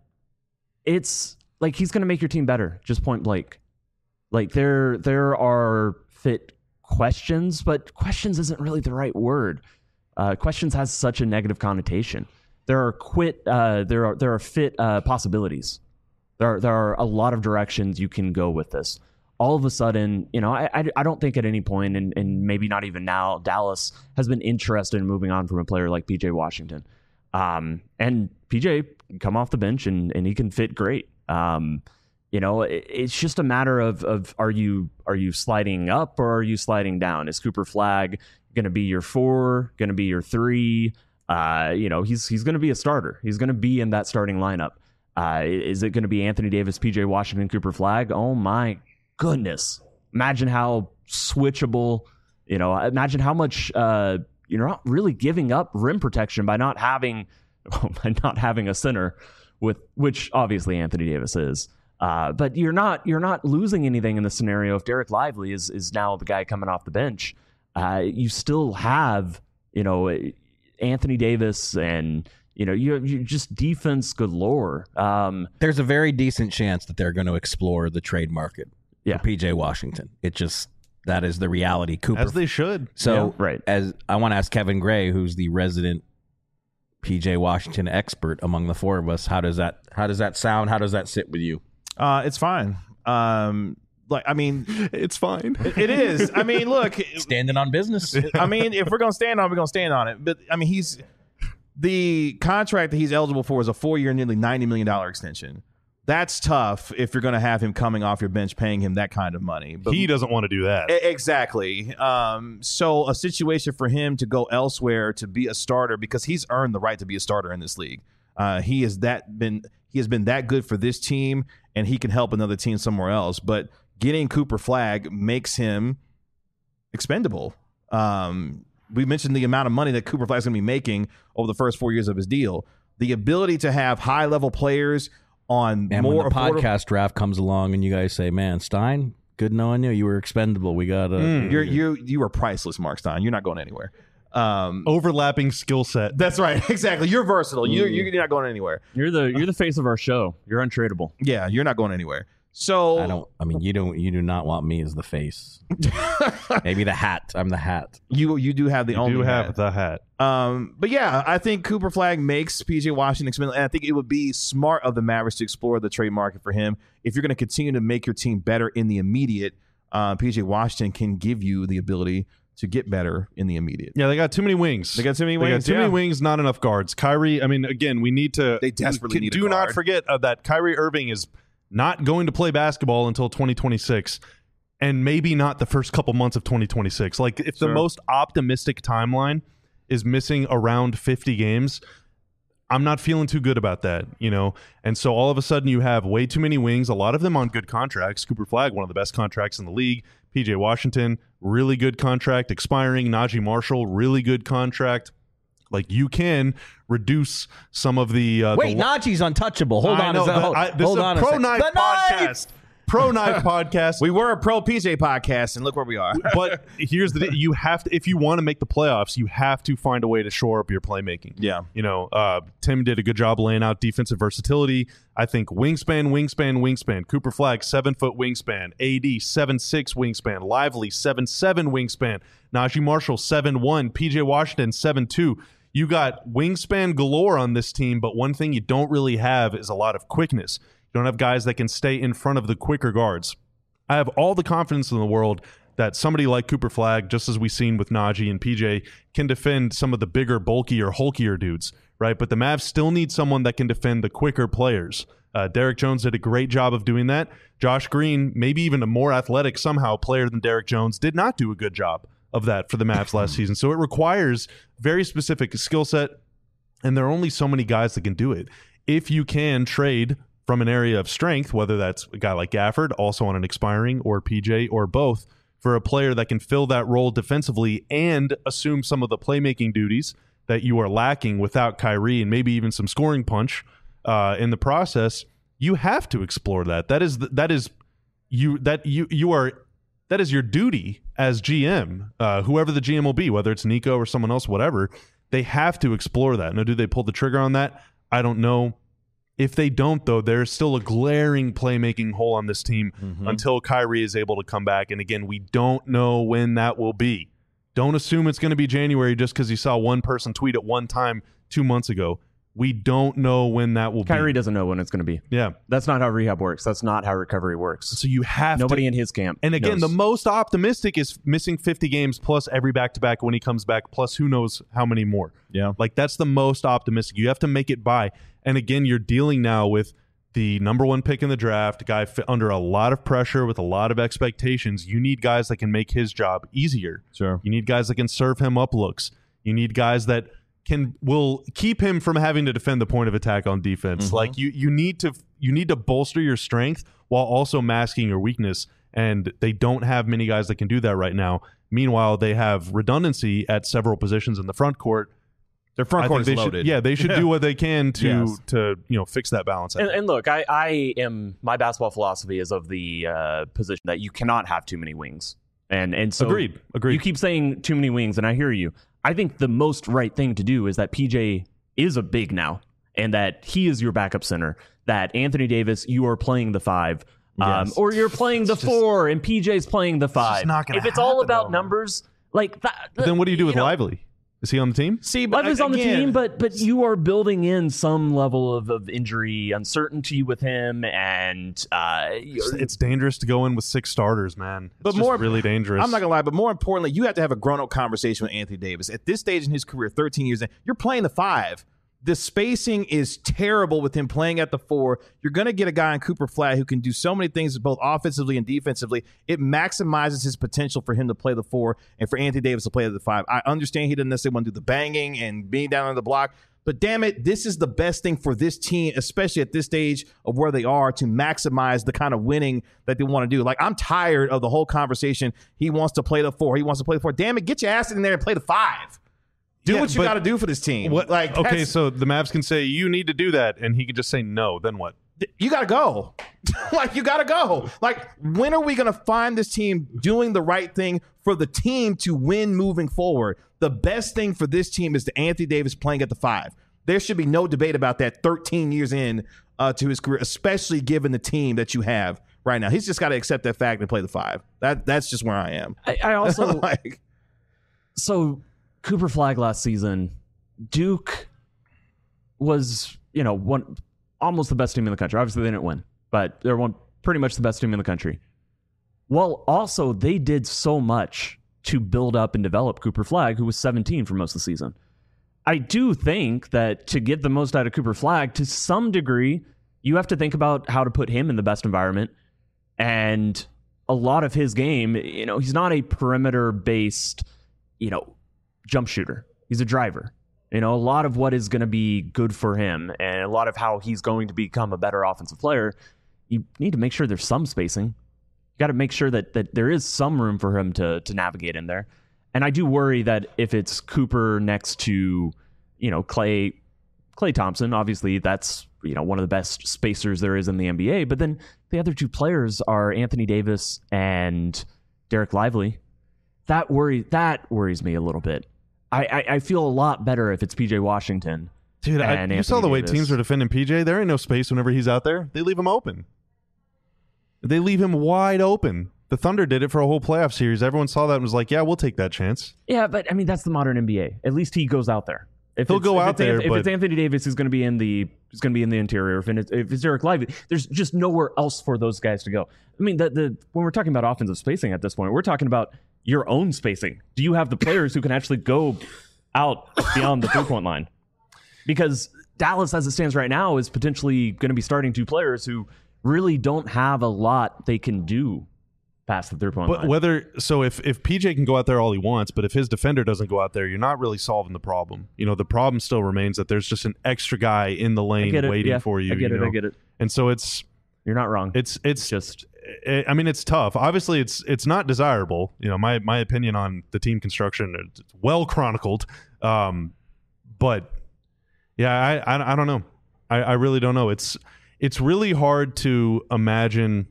it's like he's going to make your team better, just point blank. Like there, there are fit questions, but questions isn't really the right word. Uh, questions has such a negative connotation. There are quit. Uh, there are there are fit uh, possibilities. There are, there are a lot of directions you can go with this. All of a sudden, you know, I I, I don't think at any point, and, and maybe not even now, Dallas has been interested in moving on from a player like P J Washington. Um, and P J can come off the bench and, and he can fit great. Um, you know, it, it's just a matter of of are you are you sliding up or are you sliding down? Is Cooper Flagg going to be your four? Going to be your three? Uh, you know, he's he's going to be a starter. He's going to be in that starting lineup. Uh, is it going to be Anthony Davis, P J Washington, Cooper Flagg? Oh my goodness, imagine how switchable, you know, imagine how much uh, you're not really giving up rim protection by not having by not having a center with which obviously Anthony Davis is. Uh, but you're not you're not losing anything in the scenario if Derek Lively is is now the guy coming off the bench. Uh, you still have, you know, Anthony Davis and, you know, you you just defense galore. Um, There's a very decent chance that they're going to explore the trade market Yeah. for P J Washington. It just, that is the reality. Cooper. As they should. So, Yeah, right. as I want to ask Kevin Gray, who's the resident P J Washington expert among the four of us, how does that how does that sound? How does that sit with you? Uh, it's fine. Um, like, I mean, It's fine. it, it is. I mean, look, Standing on business. I mean, if we're gonna stand on it, we're gonna stand on it. But I mean, he's the contract that he's eligible for is a four-year, nearly ninety million dollar extension. That's tough if you're gonna have him coming off your bench, paying him that kind of money. But He doesn't want to do that. E- Exactly. Um, so a situation for him to go elsewhere to be a starter because he's earned the right to be a starter in this league. Uh, he has that been he has been that good for this team, and he can help another team somewhere else. But getting Cooper Flagg makes him expendable. Um, we mentioned the amount of money that Cooper Flagg's going to be making over the first four years of his deal. The ability to have high level players on And more when the affordable- podcast draft comes along and you guys say, man, Stein, good knowing you. You were expendable. We got to. Mm. You're you you are priceless, Mark Stein. You're not going anywhere. Um, Overlapping skill set. That's right. Exactly. You're versatile. You're, you're not going anywhere. You're the you're the face of our show. You're untradeable. Yeah, you're not going anywhere. So I don't. I mean, you don't. You do not want me as the face. Maybe the hat. I'm the hat. you you do have the You only do have hat. the hat. Um, but yeah, I think Cooper Flagg makes P J Washington expendable, and I think it would be smart of the Mavericks to explore the trade market for him. If you're going to continue to make your team better in the immediate, uh, P J Washington can give you the ability to get better in the immediate. Yeah, they got too many wings. They got too many They wings. got too yeah. many wings, not enough guards. Kyrie, I mean, again, we need to. They desperately can- need a Do not guard. forget uh, that Kyrie Irving is not going to play basketball until twenty twenty-six, and maybe not the first couple months of twenty twenty-six. Like, if Sure. the most optimistic timeline is missing around fifty games, I'm not feeling too good about that, you know? And so all of a sudden you have way too many wings, a lot of them on good contracts. Cooper Flagg, one of the best contracts in the league. P J Washington, really good contract expiring. Najee Marshall, really good contract. Like, you can reduce some of the... Uh, Wait, the, Najee's untouchable. Hold I on. know, a sec- the- hold, I- this hold is on a a Pro sec. Knife The knife! podcast. Pro Knife podcast. We were a pro P J podcast, and look where we are. But here's the you have to, if you want to make the playoffs, you have to find a way to shore up your playmaking. Yeah. You know, uh, Tim did a good job laying out defensive versatility. I think wingspan, wingspan, wingspan. Cooper Flagg, seven foot wingspan. A D, seven six wingspan. Lively, seven seven wingspan. Najee Marshall, seven one. P J Washington, seven two. You got wingspan galore on this team, but one thing you don't really have is a lot of quickness. You don't have guys that can stay in front of the quicker guards. I have all the confidence in the world that somebody like Cooper Flagg, just as we've seen with Najee and P J, can defend some of the bigger, bulkier, hulkier dudes, right? But the Mavs still need someone that can defend the quicker players. Uh, Derek Jones did a great job of doing that. Josh Green, maybe even a more athletic somehow player than Derek Jones, did not do a good job of that for the Mavs last season. So it requires very specific skill set, and there are only so many guys that can do it. If you can trade from an area of strength, whether that's a guy like Gafford, also on an expiring, or P J, or both, for a player that can fill that role defensively and assume some of the playmaking duties that you are lacking without Kyrie, and maybe even some scoring punch uh, in the process, you have to explore that. That is that is you that you you are that is your duty as G M, uh, whoever the G M will be, whether it's Nico or someone else, whatever. They have to explore that. Now, do they pull the trigger on that? I don't know. If they don't, though, there's still a glaring playmaking hole on this team Mm-hmm. until Kyrie is able to come back. And again, we don't know when that will be. Don't assume it's going to be January just because you saw one person tweet at one time two months ago. We don't know when that will Kyrie be. doesn't know when it's going to be. Yeah. That's not how rehab works. That's not how recovery works. So you have Nobody to. in his camp. And again, knows. the most optimistic is missing fifty games plus every back-to-back when he comes back, plus who knows how many more. Yeah. Like, that's the most optimistic. You have to make it by. And again, you're dealing now with the number one pick in the draft, a guy fi- under a lot of pressure with a lot of expectations. You need guys that can make his job easier. Sure. You need guys that can serve him up looks. You need guys that can will keep him from having to defend the point of attack on defense. Mm-hmm. Like you you need to you need to bolster your strength while also masking your weakness. and they don't have many guys that can do that right now. Meanwhile, they have redundancy at several positions in the front court. Their front I court think is they loaded. Should, yeah, they should Yeah. do what they can to Yes. to you know fix that balance. I And, think. and look, I, I am my basketball philosophy is of the uh, position that you cannot have too many wings, and and so Agreed. Agreed. You keep saying too many wings, and I hear you. I think the most right thing to do is that P J is a big now, and that he is your backup center. That Anthony Davis, you are playing the five, um, Yes. or you're playing the It's just- four, and P J's playing the five. not gonna if it's all happen, about though. numbers, like that, But then what do you do with know, Lively? Is he on the team? See, but Lively's on the again, team, but but you are building in some level of, of injury uncertainty with him, and uh, It's, it's dangerous to go in with six starters, man. It's But just more- really dangerous. I'm not gonna lie, but more importantly, you have to have a grown-up conversation with Anthony Davis. At this stage in his career, thirteen years in, you're playing the five. The spacing is terrible with him playing at the four. You're going to get a guy in Cooper Flag who can do so many things both offensively and defensively. It maximizes his potential for him to play the four and for Anthony Davis to play at the five. I understand he doesn't necessarily want to do the banging and being down on the block, but damn it, this is the best thing for this team, especially at this stage of where they are, to maximize the kind of winning that they want to do. Like, I'm tired of the whole conversation. He wants to play the four. He wants to play the four. Damn it, get your ass in there and play the five. Do Yeah, what you but got to do for this team. What? Like, okay, that's- so the Mavs can say you need to do that, and he can just say no. Then what? you got to go. Like, you got to go. Like, when are we going to find this team doing the right thing for the team to win moving forward? The best thing for this team is the Anthony Davis playing at the five. There should be no debate about that thirteen years in uh, to his career, especially given the team that you have right now. He's just got to accept that fact and play the five. That That's just where I am. I, I also like, so Cooper Flag last season, Duke was, you know, one almost the best team in the country. Obviously, they didn't win, but they're one pretty much the best team in the country. Well, also they did so much to build up and develop Cooper Flag, who was seventeen for most of the season. I do think that to get the most out of Cooper Flag, to some degree, you have to think about how to put him in the best environment. And a lot of his game, you know, he's not a perimeter-based, you know, jump shooter. He's a driver. You know, a lot of what is going to be good for him and a lot of how he's going to become a better offensive player, you need to make sure there's some spacing. You got to make sure that that there is some room for him to to navigate in there. And I do worry that if it's Cooper next to, you know, Clay Clay Thompson, obviously that's, you know, one of the best spacers there is in the N B A, but then the other two players are Anthony Davis and Derek Lively. That worry that worries me a little bit. I, I, I feel a lot better if it's P J Washington. Dude, I, and you saw Anthony the way Davis. teams are defending P J. There ain't no space whenever he's out there. They leave him open. They leave him wide open. The Thunder did it for a whole playoff series. Everyone saw that and was like, yeah, we'll take that chance. Yeah, but I mean that's the modern N B A. At least he goes out there. If He'll it's- go if out it's Anth- there, If but- it's Anthony Davis, he's going to be in the he's going to be in the interior. If it's, if it's Derek Lively, there's just nowhere else for those guys to go. I mean, the the when we're talking about offensive spacing at this point, we're talking about your own spacing. Do you have the players who can actually go out beyond the three point line? Because Dallas, as it stands right now, is potentially going to be starting two players who really don't have a lot they can do past the three point But line. whether so, if if P J can go out there all he wants, but if his defender doesn't go out there, you're not really solving the problem. You know, the problem still remains that there's just an extra guy in the I lane get it. waiting Yeah, for you. I get you it. I know? get it. And so it's You're not wrong. it's it's just I mean, it's tough. Obviously, it's it's not desirable. You know, my my opinion on the team construction, it's well chronicled. Um, but yeah, I, I I don't know. I, I really don't know. It's it's really hard to imagine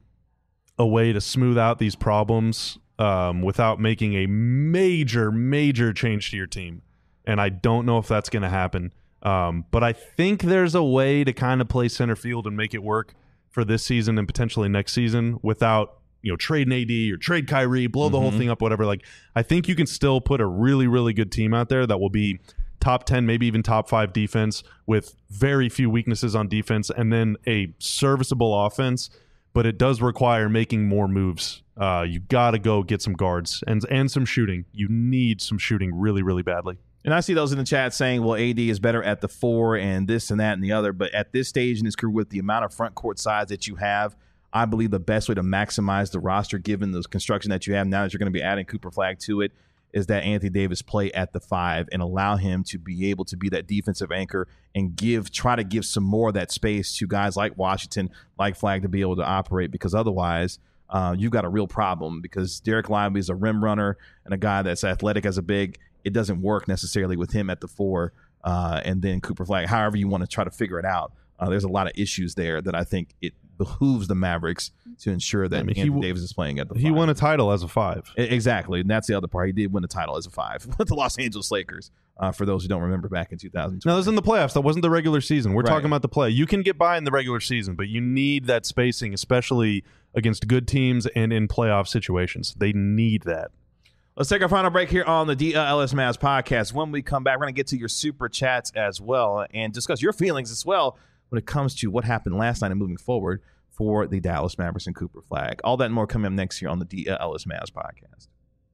a way to smooth out these problems um, without making a major major change to your team. And I don't know if that's going to happen. Um, but I think there's a way to kind of play center field and make it work for this season and potentially next season without, you know, trading A D or trade Kyrie, blow the whole thing up, whatever. Like, I think you can still put a really, really good team out there that will be top ten, maybe even top five defense with very few weaknesses on defense and then a serviceable offense. But it does require making more moves. Uh, you got to go get some guards and and some shooting. You need some shooting really, really badly. And I see those in the chat saying, well, A D is better at the four and this and that and the other. But at this stage in his career, with the amount of front court size that you have, I believe the best way to maximize the roster, given the construction that you have now that you're going to be adding Cooper Flag to it, is that Anthony Davis play at the five and allow him to be able to be that defensive anchor and give, try to give some more of that space to guys like Washington, like Flag, to be able to operate. Because otherwise, uh, you've got a real problem because Derek Lively is a rim runner and a guy that's athletic as a big. It doesn't work necessarily with him at the four, uh, and then Cooper Flagg. However you want to try to figure it out, uh, there's a lot of issues there that I think it behooves the Mavericks to ensure that I mean, Anthony he, Davis is playing at the. He five. won a title as a five. Exactly, and that's the other part. He did win a title as a five with the Los Angeles Lakers. Uh, for those who don't remember, back in two thousand twenty. No, that was in the playoffs. That wasn't the regular season. We're Right. talking about the play. You can get by in the regular season, but you need that spacing, especially against good teams and in playoff situations. They need that. Let's take our final break here on the D L L S Mavs podcast. When we come back, we're going to get to your super chats as well and discuss your feelings as well when it comes to what happened last night and moving forward for the Dallas Mavericks and Cooper Flagg. All that and more coming up next year on the D L L S Mavs podcast.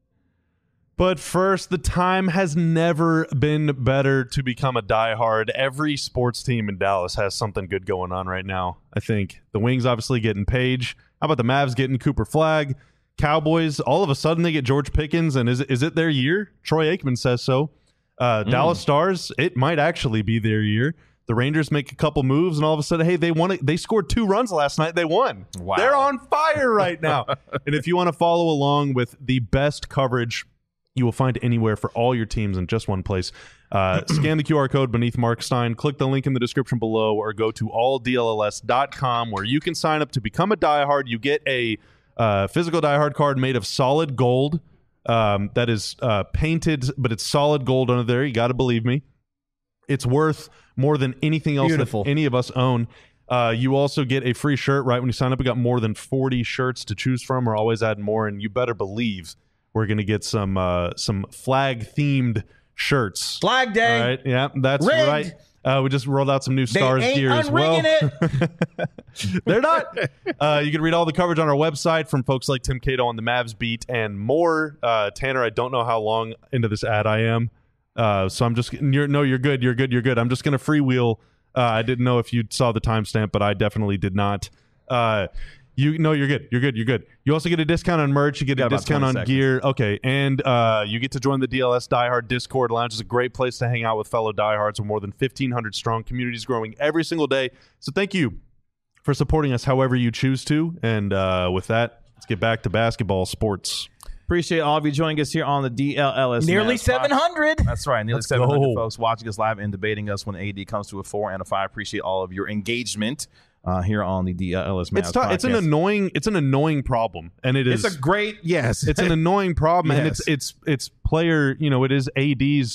But first, the time has never been better to become a diehard. Every sports team in Dallas has something good going on right now, I think. The Wings obviously getting Page. How about the Mavs getting Cooper Flagg? Cowboys, all of a sudden they get George Pickens, and is, is it their year? Troy Aikman says so. Uh, mm. Dallas Stars, it might actually be their year. The Rangers make a couple moves, and all of a sudden, hey, they won it. They scored two runs last night. They won. Wow. They're on fire right now. And if you want to follow along with the best coverage you will find anywhere for all your teams in just one place, uh, scan the Q R code beneath Mark Stein, click the link in the description below, or go to all D L L S dot com where you can sign up to become a diehard. You get a uh, physical diehard card made of solid gold um, that is uh, painted, but it's solid gold under there. You got to believe me. It's worth more than anything else Beautiful. that any of us own. Uh, you also get a free shirt right when you sign up. We got more than forty shirts to choose from. We're always adding more, and you better believe we're going to get some uh, some flag-themed shirts. Flag Day. All right, yeah, that's Rigged. right. Uh, we just rolled out some new They Stars ain't gear as well. unrigging it. They're not. Uh, you can read all the coverage on our website from folks like Tim Cato on the Mavs beat and more. Uh, Tanner, I don't know how long into this ad I am, uh, so I'm just you're, no, you're good, you're good, you're good. I'm just going to freewheel. Uh, I didn't know if you saw the timestamp, but I definitely did not. Uh, You no, you're good. You're good. You're good. You also get a discount on merch. You get Got a about discount on twenty seconds. gear. Okay, and uh, you get to join the D L S Diehard Discord Lounge. It's a great place to hang out with fellow diehards. We're more than fifteen hundred strong. Communities growing every single day. So thank you for supporting us, however you choose to. And uh, with that, let's get back to basketball sports. Appreciate all of you joining us here on the D L L S. Nearly Mavs seven podcast. hundred. That's right. Nearly Let's seven hundred go. folks watching us live and debating us when A D comes to a four and a five. Appreciate all of your engagement uh, here on the D L L S Mavs It's t- it's an podcast. annoying it's an annoying problem, and it is It's a great yes. it's an annoying problem, and Yes. it's it's it's player. You know, it is A D's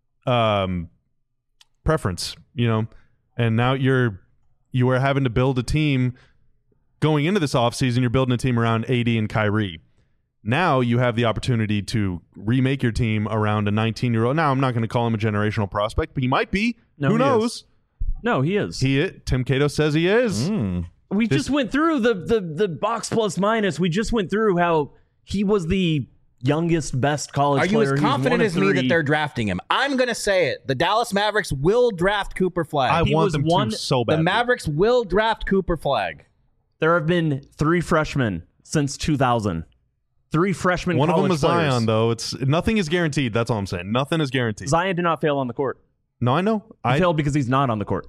um, preference. You know, and now you're you are having to build a team going into this offseason. You're building a team around A D and Kyrie. Now you have the opportunity to remake your team around a nineteen-year-old. Now I'm not going to call him a generational prospect, but he might be. No, Who he knows? is. No, he is. He Tim Cato says he is. Mm. we this- just went through the, the the box plus minus. We just went through how he was the youngest, best college Are you player. as He was confident one of as me that three. they're drafting him? I'm going to say it. The Dallas Mavericks will draft Cooper Flagg. I He want was them one- to so the bad. Mavericks will draft Cooper Flagg. There have been three freshmen since two thousand. Three freshmen. One of them college is Zion, players. though. It's nothing is guaranteed. That's all I'm saying. Nothing is guaranteed. Zion did not fail on the court. No, I know. He I failed because he's not on the court.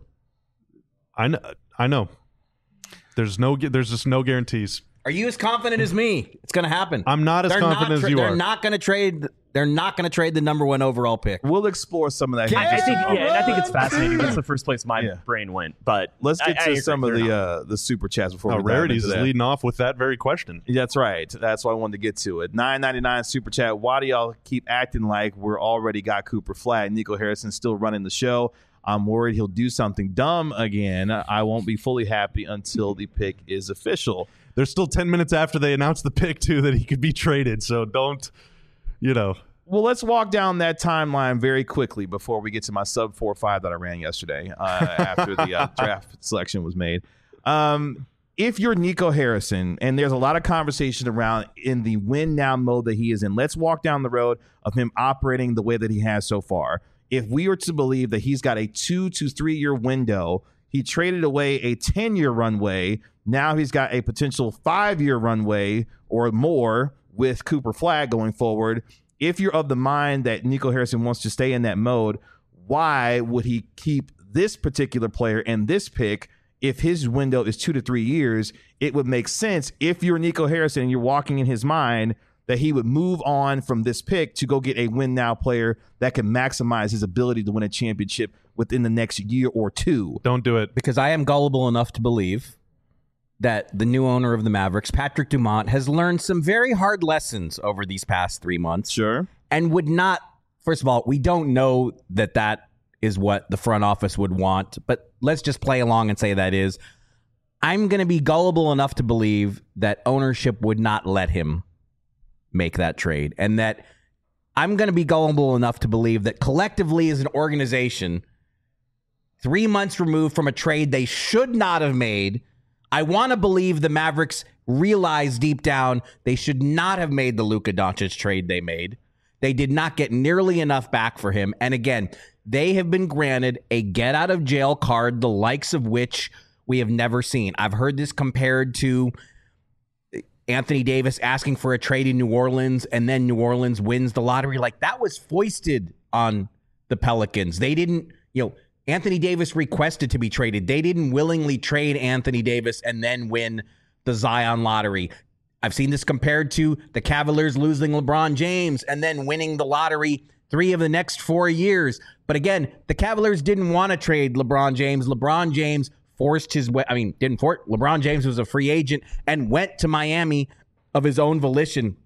I know. I know. There's no. gu- There's just no guarantees. Are you as confident as me? It's going to happen. I'm not as They're confident not as tra- you they're are. not going to trade. They're not going to trade the number one overall pick. We'll explore some of that. I, I think, yeah, and I think it's Run, fascinating. That's the first place my Yeah. brain went. But Let's get I- I to agree. some of They're the not. uh, the super chats before Oh, we dive Rarities into is that. leading off with that very question. That's right. That's why I wanted to get to it. nine ninety-nine super chat. Why do y'all keep acting like we're already got Cooper Flagg? Nico Harrison still running the show. I'm worried he'll do something dumb again. I won't be fully happy until the pick is official. There's still ten minutes after they announced the pick too that he could be traded. So don't, you know. Well, let's walk down that timeline very quickly before we get to my sub four five that I ran yesterday uh, after the uh, draft selection was made. Um, if you're Nico Harrison, and there's a lot of conversation around in the win now mode that he is in, let's walk down the road of him operating the way that he has so far. If we were to believe that he's got a two to three year window, he traded away a ten year runway. Now he's got a potential five year runway or more with Cooper Flagg going forward. If you're of the mind that Nico Harrison wants to stay in that mode, why would he keep this particular player and this pick if his window is two to three years, it would make sense if you're Nico Harrison and you're walking in his mind that he would move on from this pick to go get a win now player that can maximize his ability to win a championship within the next year or two. Don't do it. Because I am gullible enough to believe that the new owner of the Mavericks, Patrick Dumont, has learned some very hard lessons over these past three months. Sure. And would not, first of all, we don't know that that is what the front office would want, but let's just play along and say that is. I'm going to be gullible enough to believe that ownership would not let him make that trade, and that I'm going to be gullible enough to believe that collectively as an organization, three months removed from a trade they should not have made, I want to believe the Mavericks realize deep down they should not have made the Luka Doncic trade they made. They did not get nearly enough back for him. And again, they have been granted a get out of jail card, the likes of which we have never seen. I've heard this compared to Anthony Davis asking for a trade in New Orleans, and then New Orleans wins the lottery. Like, that was foisted on the Pelicans. They didn't, you know, Anthony Davis requested to be traded. They didn't willingly trade Anthony Davis and then win the Zion lottery. I've seen this compared to the Cavaliers losing LeBron James and then winning the lottery three of the next four years. But again, the Cavaliers didn't want to trade LeBron James. LeBron James forced his way. I mean, didn't for LeBron James was a free agent and went to Miami of his own volition.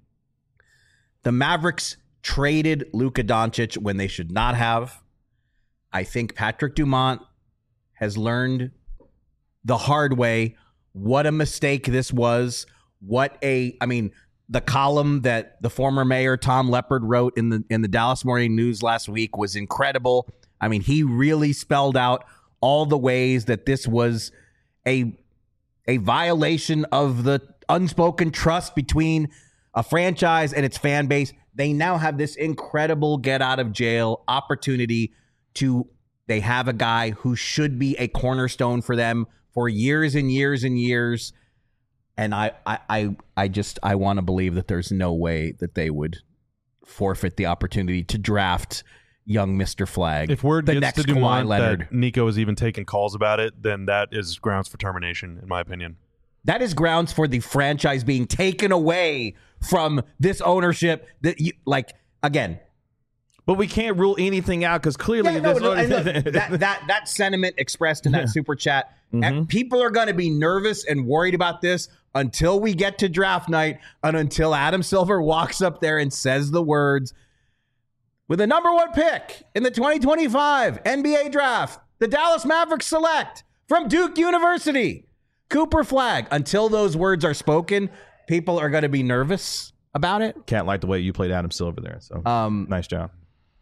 The Mavericks traded Luka Doncic when they should not have. I think Patrick Dumont has learned the hard way what a mistake this was. What a, I mean, the column that the former mayor Tom Leppard wrote in the in the Dallas Morning News last week was incredible. I mean, he really spelled out all the ways that this was a a violation of the unspoken trust between a franchise and its fan base. They now have this incredible get out of jail opportunity to, they have a guy who should be a cornerstone for them for years and years and years. And I, I, I, I just, I want to believe that there's no way that they would forfeit the opportunity to draft young Mister Flag. If word the gets next to Dumont Kawhi Leonard, that Nico is even taking calls about it, then that is grounds for termination, in my opinion. that is grounds for the franchise being taken away from this ownership. That you, like, again. But we can't rule anything out because clearly Yeah, no, this no, and look, that, that that sentiment expressed in that Yeah. super chat, Mhm. and people are going to be nervous and worried about this until we get to draft night and until Adam Silver walks up there and says the words, with the number one pick in the twenty twenty-five N B A draft, the Dallas Mavericks select from Duke University, Cooper Flag. Until those words are spoken, people are going to be nervous about it. Can't like the way you played Adam Silver there. So Um, nice job.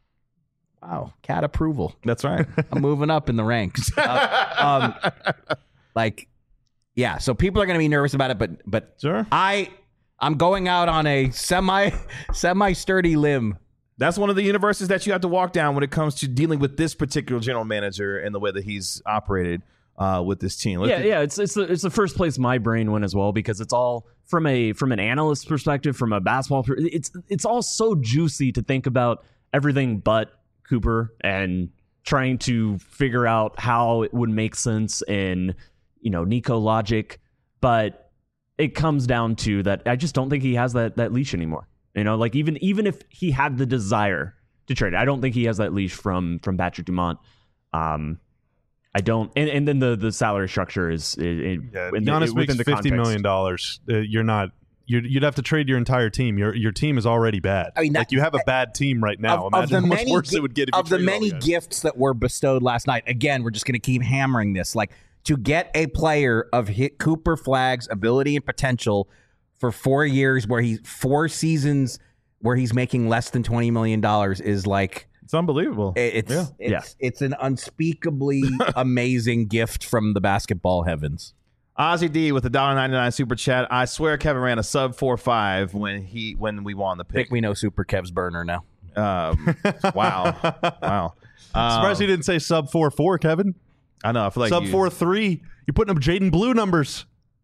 Wow, cat approval. That's right. I'm moving up in the ranks. Uh, um, like, yeah. So people are going to be nervous about it, but but Sure. I I'm going out on a semi semi sturdy limb. That's one of the universes that you have to walk down when it comes to dealing with this particular general manager and the way that he's operated uh, with this team. Let's Yeah, do- yeah, it's it's the it's the first place my brain went as well because it's all from a from an analyst perspective, from a basketball. Per- it's it's all so juicy to think about everything but Cooper and trying to figure out how it would make sense in, you know, Nico logic, but it comes down to that I just don't think he has that that leash anymore. You know, like even even if he had the desire to trade, I don't think he has that leash from from Patrick Dumont. Um, I don't, and, and then the the salary structure is, is Yeah, in the- Giannis within makes the fifty context. million dollars. Uh, you're not. You'd, you'd have to trade your entire team. Your your team is already bad. I mean, that- like you have a bad team right now. Of, of Imagine the how much many worse gi- it would get if you of the traded all many guys. gifts that were bestowed last night. Again, we're just going to keep hammering this. Like, to get a player of hit Cooper Flag's ability and potential for four years, where he's four seasons where he's making less than twenty million dollars, is like. It's unbelievable. It's Yeah. it's, Yeah. it's an unspeakably amazing gift from the basketball heavens. Ozzy D with the one dollar ninety-nine super chat. I swear Kevin ran a sub four five when he when we won the I think pick. we know Super Kev's burner now. Um, wow, wow. Um, Surprised he didn't say sub four four, Kevin. I know. I feel like sub you- four three. You're putting up Jaden Blue numbers.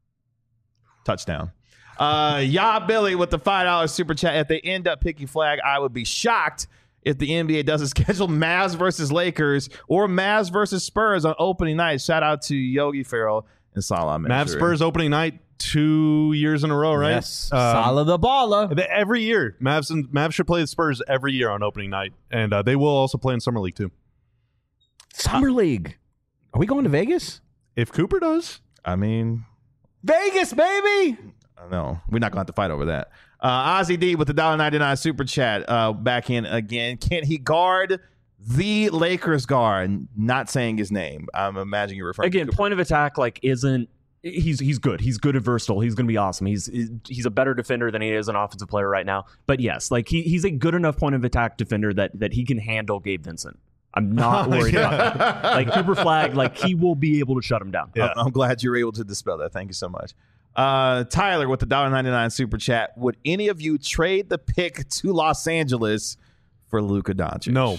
touchdown. Uh, yeah, Billy with the five dollar super chat. If they end up picking Flag, I would be shocked. if the N B A doesn't schedule Mavs versus Lakers or Mavs versus Spurs on opening night. Shout out to Yogi Ferrell and Salah. Mavs Spurs opening night two years in a row, right? Yes. Um, Salah the baller. they- Every year, Mavs and Mavs should play the Spurs every year on opening night, and uh, they will also play in summer league too. Summer League. Are we going to Vegas? If Cooper does, I mean, Vegas, baby. no, we're not going to have to fight over that. Uh, Ozzy D with the one dollar ninety-nine super chat uh, back in again. Can he guard the Lakers guard? Not saying his name. I'm imagining you're referring Again, to Cooper. point of attack like isn't he's he's good. He's good and versatile. He's going to be awesome. He's he's a better defender than he is an offensive player right now. But yes, like he he's a good enough point of attack defender that that he can handle Gabe Vincent. I'm not worried Yeah. about that. Like Cooper Flag, like he will be able to shut him down. Yeah. I'm glad you were able to dispel that. Thank you so much. Uh, Tyler with the one dollar ninety-nine super chat. Would any of you trade the pick to Los Angeles for Luka Doncic? no.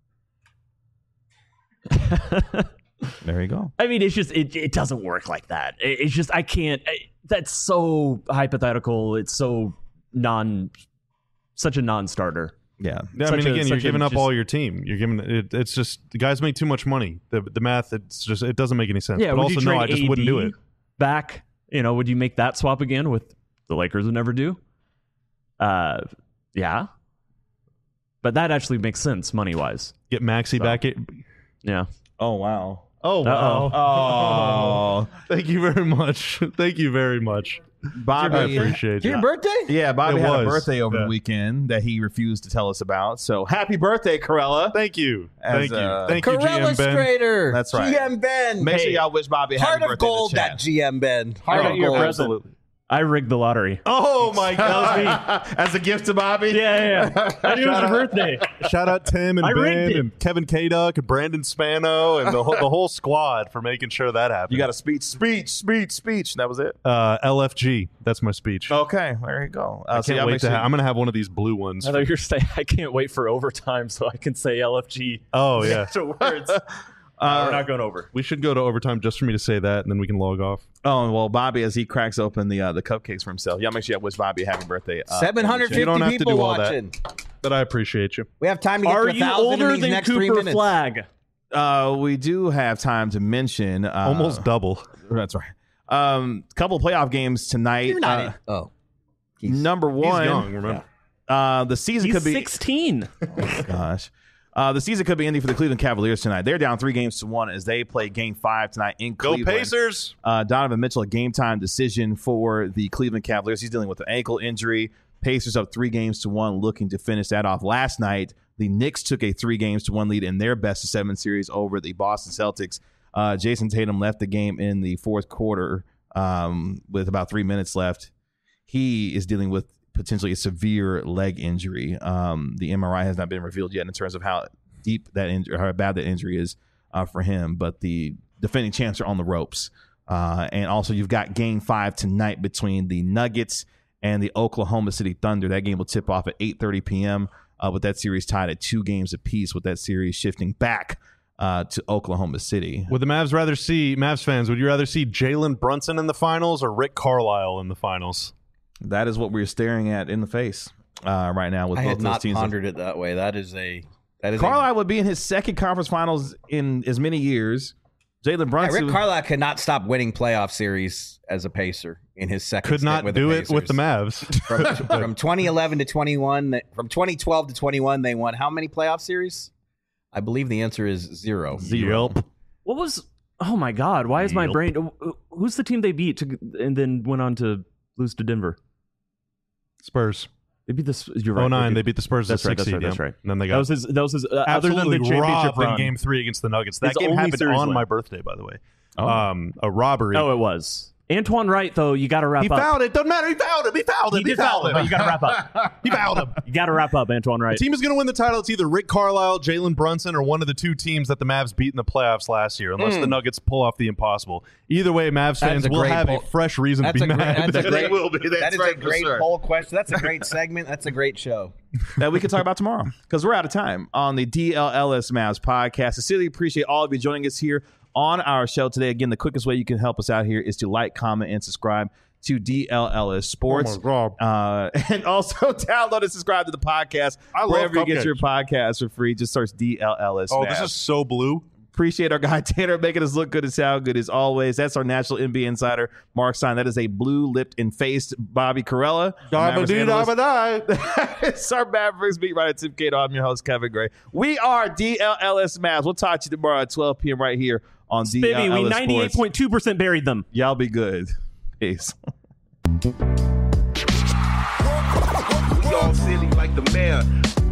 There you go. I mean, it's just it, it doesn't work like that. It, it's just I can't. I, that's so hypothetical. It's so non, such a non-starter. Yeah. Yeah, I Such mean, a- again, you're such a giving up just- all your team. You're giving it. It's just the guys make too much money. The the math, it's just it doesn't make any sense. Yeah, but would also you no, trade I just A D wouldn't do it. back? You know, would you make that swap again with the Lakers would never do? Uh, yeah, but that actually makes sense money wise. Get Maxey So. back. It. Yeah. Oh, wow. Oh wow. Oh. Thank you very much. Thank you very much. I Bobby. appreciate Your you. birthday? Yeah, Bobby It had a was. birthday over Yeah. the weekend that he refused to tell us about. So happy birthday, Corella. Thank you. As, Thank you. uh, Thank you, G Corella M Ben. Strader. That's right. G M Ben. Make sure Hey, y'all wish Bobby a happy Heart birthday of gold, in the that chat. G M Ben. Heart Oh, of your gold. present. I rigged the lottery. Oh my God! As a gift to Bobby? Yeah, yeah. I knew it was your birthday. Shout out Tim and I rigged Ben it. and Kevin K. Duck and Brandon Spano and the whole, the whole squad for making sure that happened. You got a speech, speech, speech, speech. That was it. uh, L F G. That's my speech. Okay, there you go. Uh, I so can't y'all wait make to. sure- Ha- I'm gonna have one of these blue ones. I thought you were saying I can't wait for overtime so I can say L F G. Oh yeah. Extra words. Uh, we're not going over. We should go to overtime just for me to say that, and then we can log off. Oh, well, Bobby, as he cracks open the uh, the cupcakes for himself, y'all make sure y'all wish Bobby a happy birthday. Uh, seven hundred You don't fifty have to people do all that. watching. But I appreciate you. We have time to get Are to a you thousand in older these than next three Cooper minutes. Flag? Uh, we do have time to mention. Uh, Almost double. That's right. Um, couple of playoff games tonight. You're not Uh, in. Oh. number He's one, young. Remember? uh, the season He's could be. sixteen. Oh, gosh. Uh, the season could be ending for the Cleveland Cavaliers tonight. They're down three games to one as they play game five tonight in Go Cleveland. Pacers. Uh, Donovan Mitchell, a game time decision for the Cleveland Cavaliers. He's dealing with an ankle injury. Pacers up three games to one, looking to finish that off. Last night, the Knicks took a three games to one lead in their best of seven series over the Boston Celtics. Uh, Jason Tatum left the game in the fourth quarter um, with about three minutes left. He is dealing with potentially a severe leg injury. Um, the M R I has not been revealed yet in terms of how deep that injury, or how bad that injury is uh, for him. But the defending champs are on the ropes. Uh, and also, you've got game five tonight between the Nuggets and the Oklahoma City Thunder. That game will tip off at eight thirty p.m. Uh, with that series tied at two games apiece, with that series shifting back uh, to Oklahoma City. Would the Mavs rather see Mavs fans? Would you rather see Jalen Brunson in the finals or Rick Carlisle in the finals? That is what we're staring at in the face uh, right now with I both had those not teams. pondered it that way. That is a that is a, Carlisle would be in his second conference finals in as many years. Jalen Yeah, Brunson. Rick Carlisle could not stop winning playoff series as a Pacer in his second. Could stint not with do the it with the Pacers. Mavs. From, from twenty eleven to twenty-one, they- from twenty twelve to twenty-one, they won how many playoff series? I believe the answer is zero. Zero. Yelp. What was? Oh my God! Why is my Yep. brain? Who's the team they beat to, and then went on to lose to Denver? Spurs. They beat this. You're right. Oh nine, they beat- beat the Spurs. That's the right, six that's right, seed, that's yeah. right. And then they That got was his. That was his. Uh, other than absolutely the championship robbed in run. game three against the Nuggets. That His game only happened series on win. my birthday, by the way. Oh. Um, a robbery. Oh, it was Antoine Wright. Though you got to wrap he up. fouled it. Doesn't matter. He fouled him. He fouled him. He He, did foul fouled him, him. but you got to wrap up. He fouled him. You got to wrap up, Antoine Wright. The team is going to win the title. It's either Rick Carlisle, Jalen Brunson, or one of the two teams that the Mavs beat in the playoffs last year, unless Mm. the Nuggets pull off the impossible. Either way, Mavs That's fans a will great have poll. a fresh reason That's to be a great. mad. That's a great. They will be. That's that is right, a for great sure. poll question. That's a great segment. That's a great show. that we can talk about tomorrow because we're out of time on the D L L S Mavs podcast. I sincerely appreciate all of you joining us here on our show today. Again, the quickest way you can help us out here is to like, comment, and subscribe to D L L S Sports. Oh my Uh, and also download and subscribe to the podcast I love wherever you get cupcakes. your podcast for free. Just search D L L S. Oh, Mavs. this is so blue. Appreciate our guy Tanner making us look good and sound good as always. That's our national N B A insider, Mark Stein. That is a blue-lipped and faced Bobby Carella. Mavericks analyst. It's our Mavericks beat writer Tim Cato. I'm your host, Kevin Gray. We are D L L S Mavs. We'll talk to you tomorrow at twelve p.m. right here on D L L S Baby, we Sports. ninety-eight point two percent buried them. Y'all be good. Peace. We all silly like the mayor.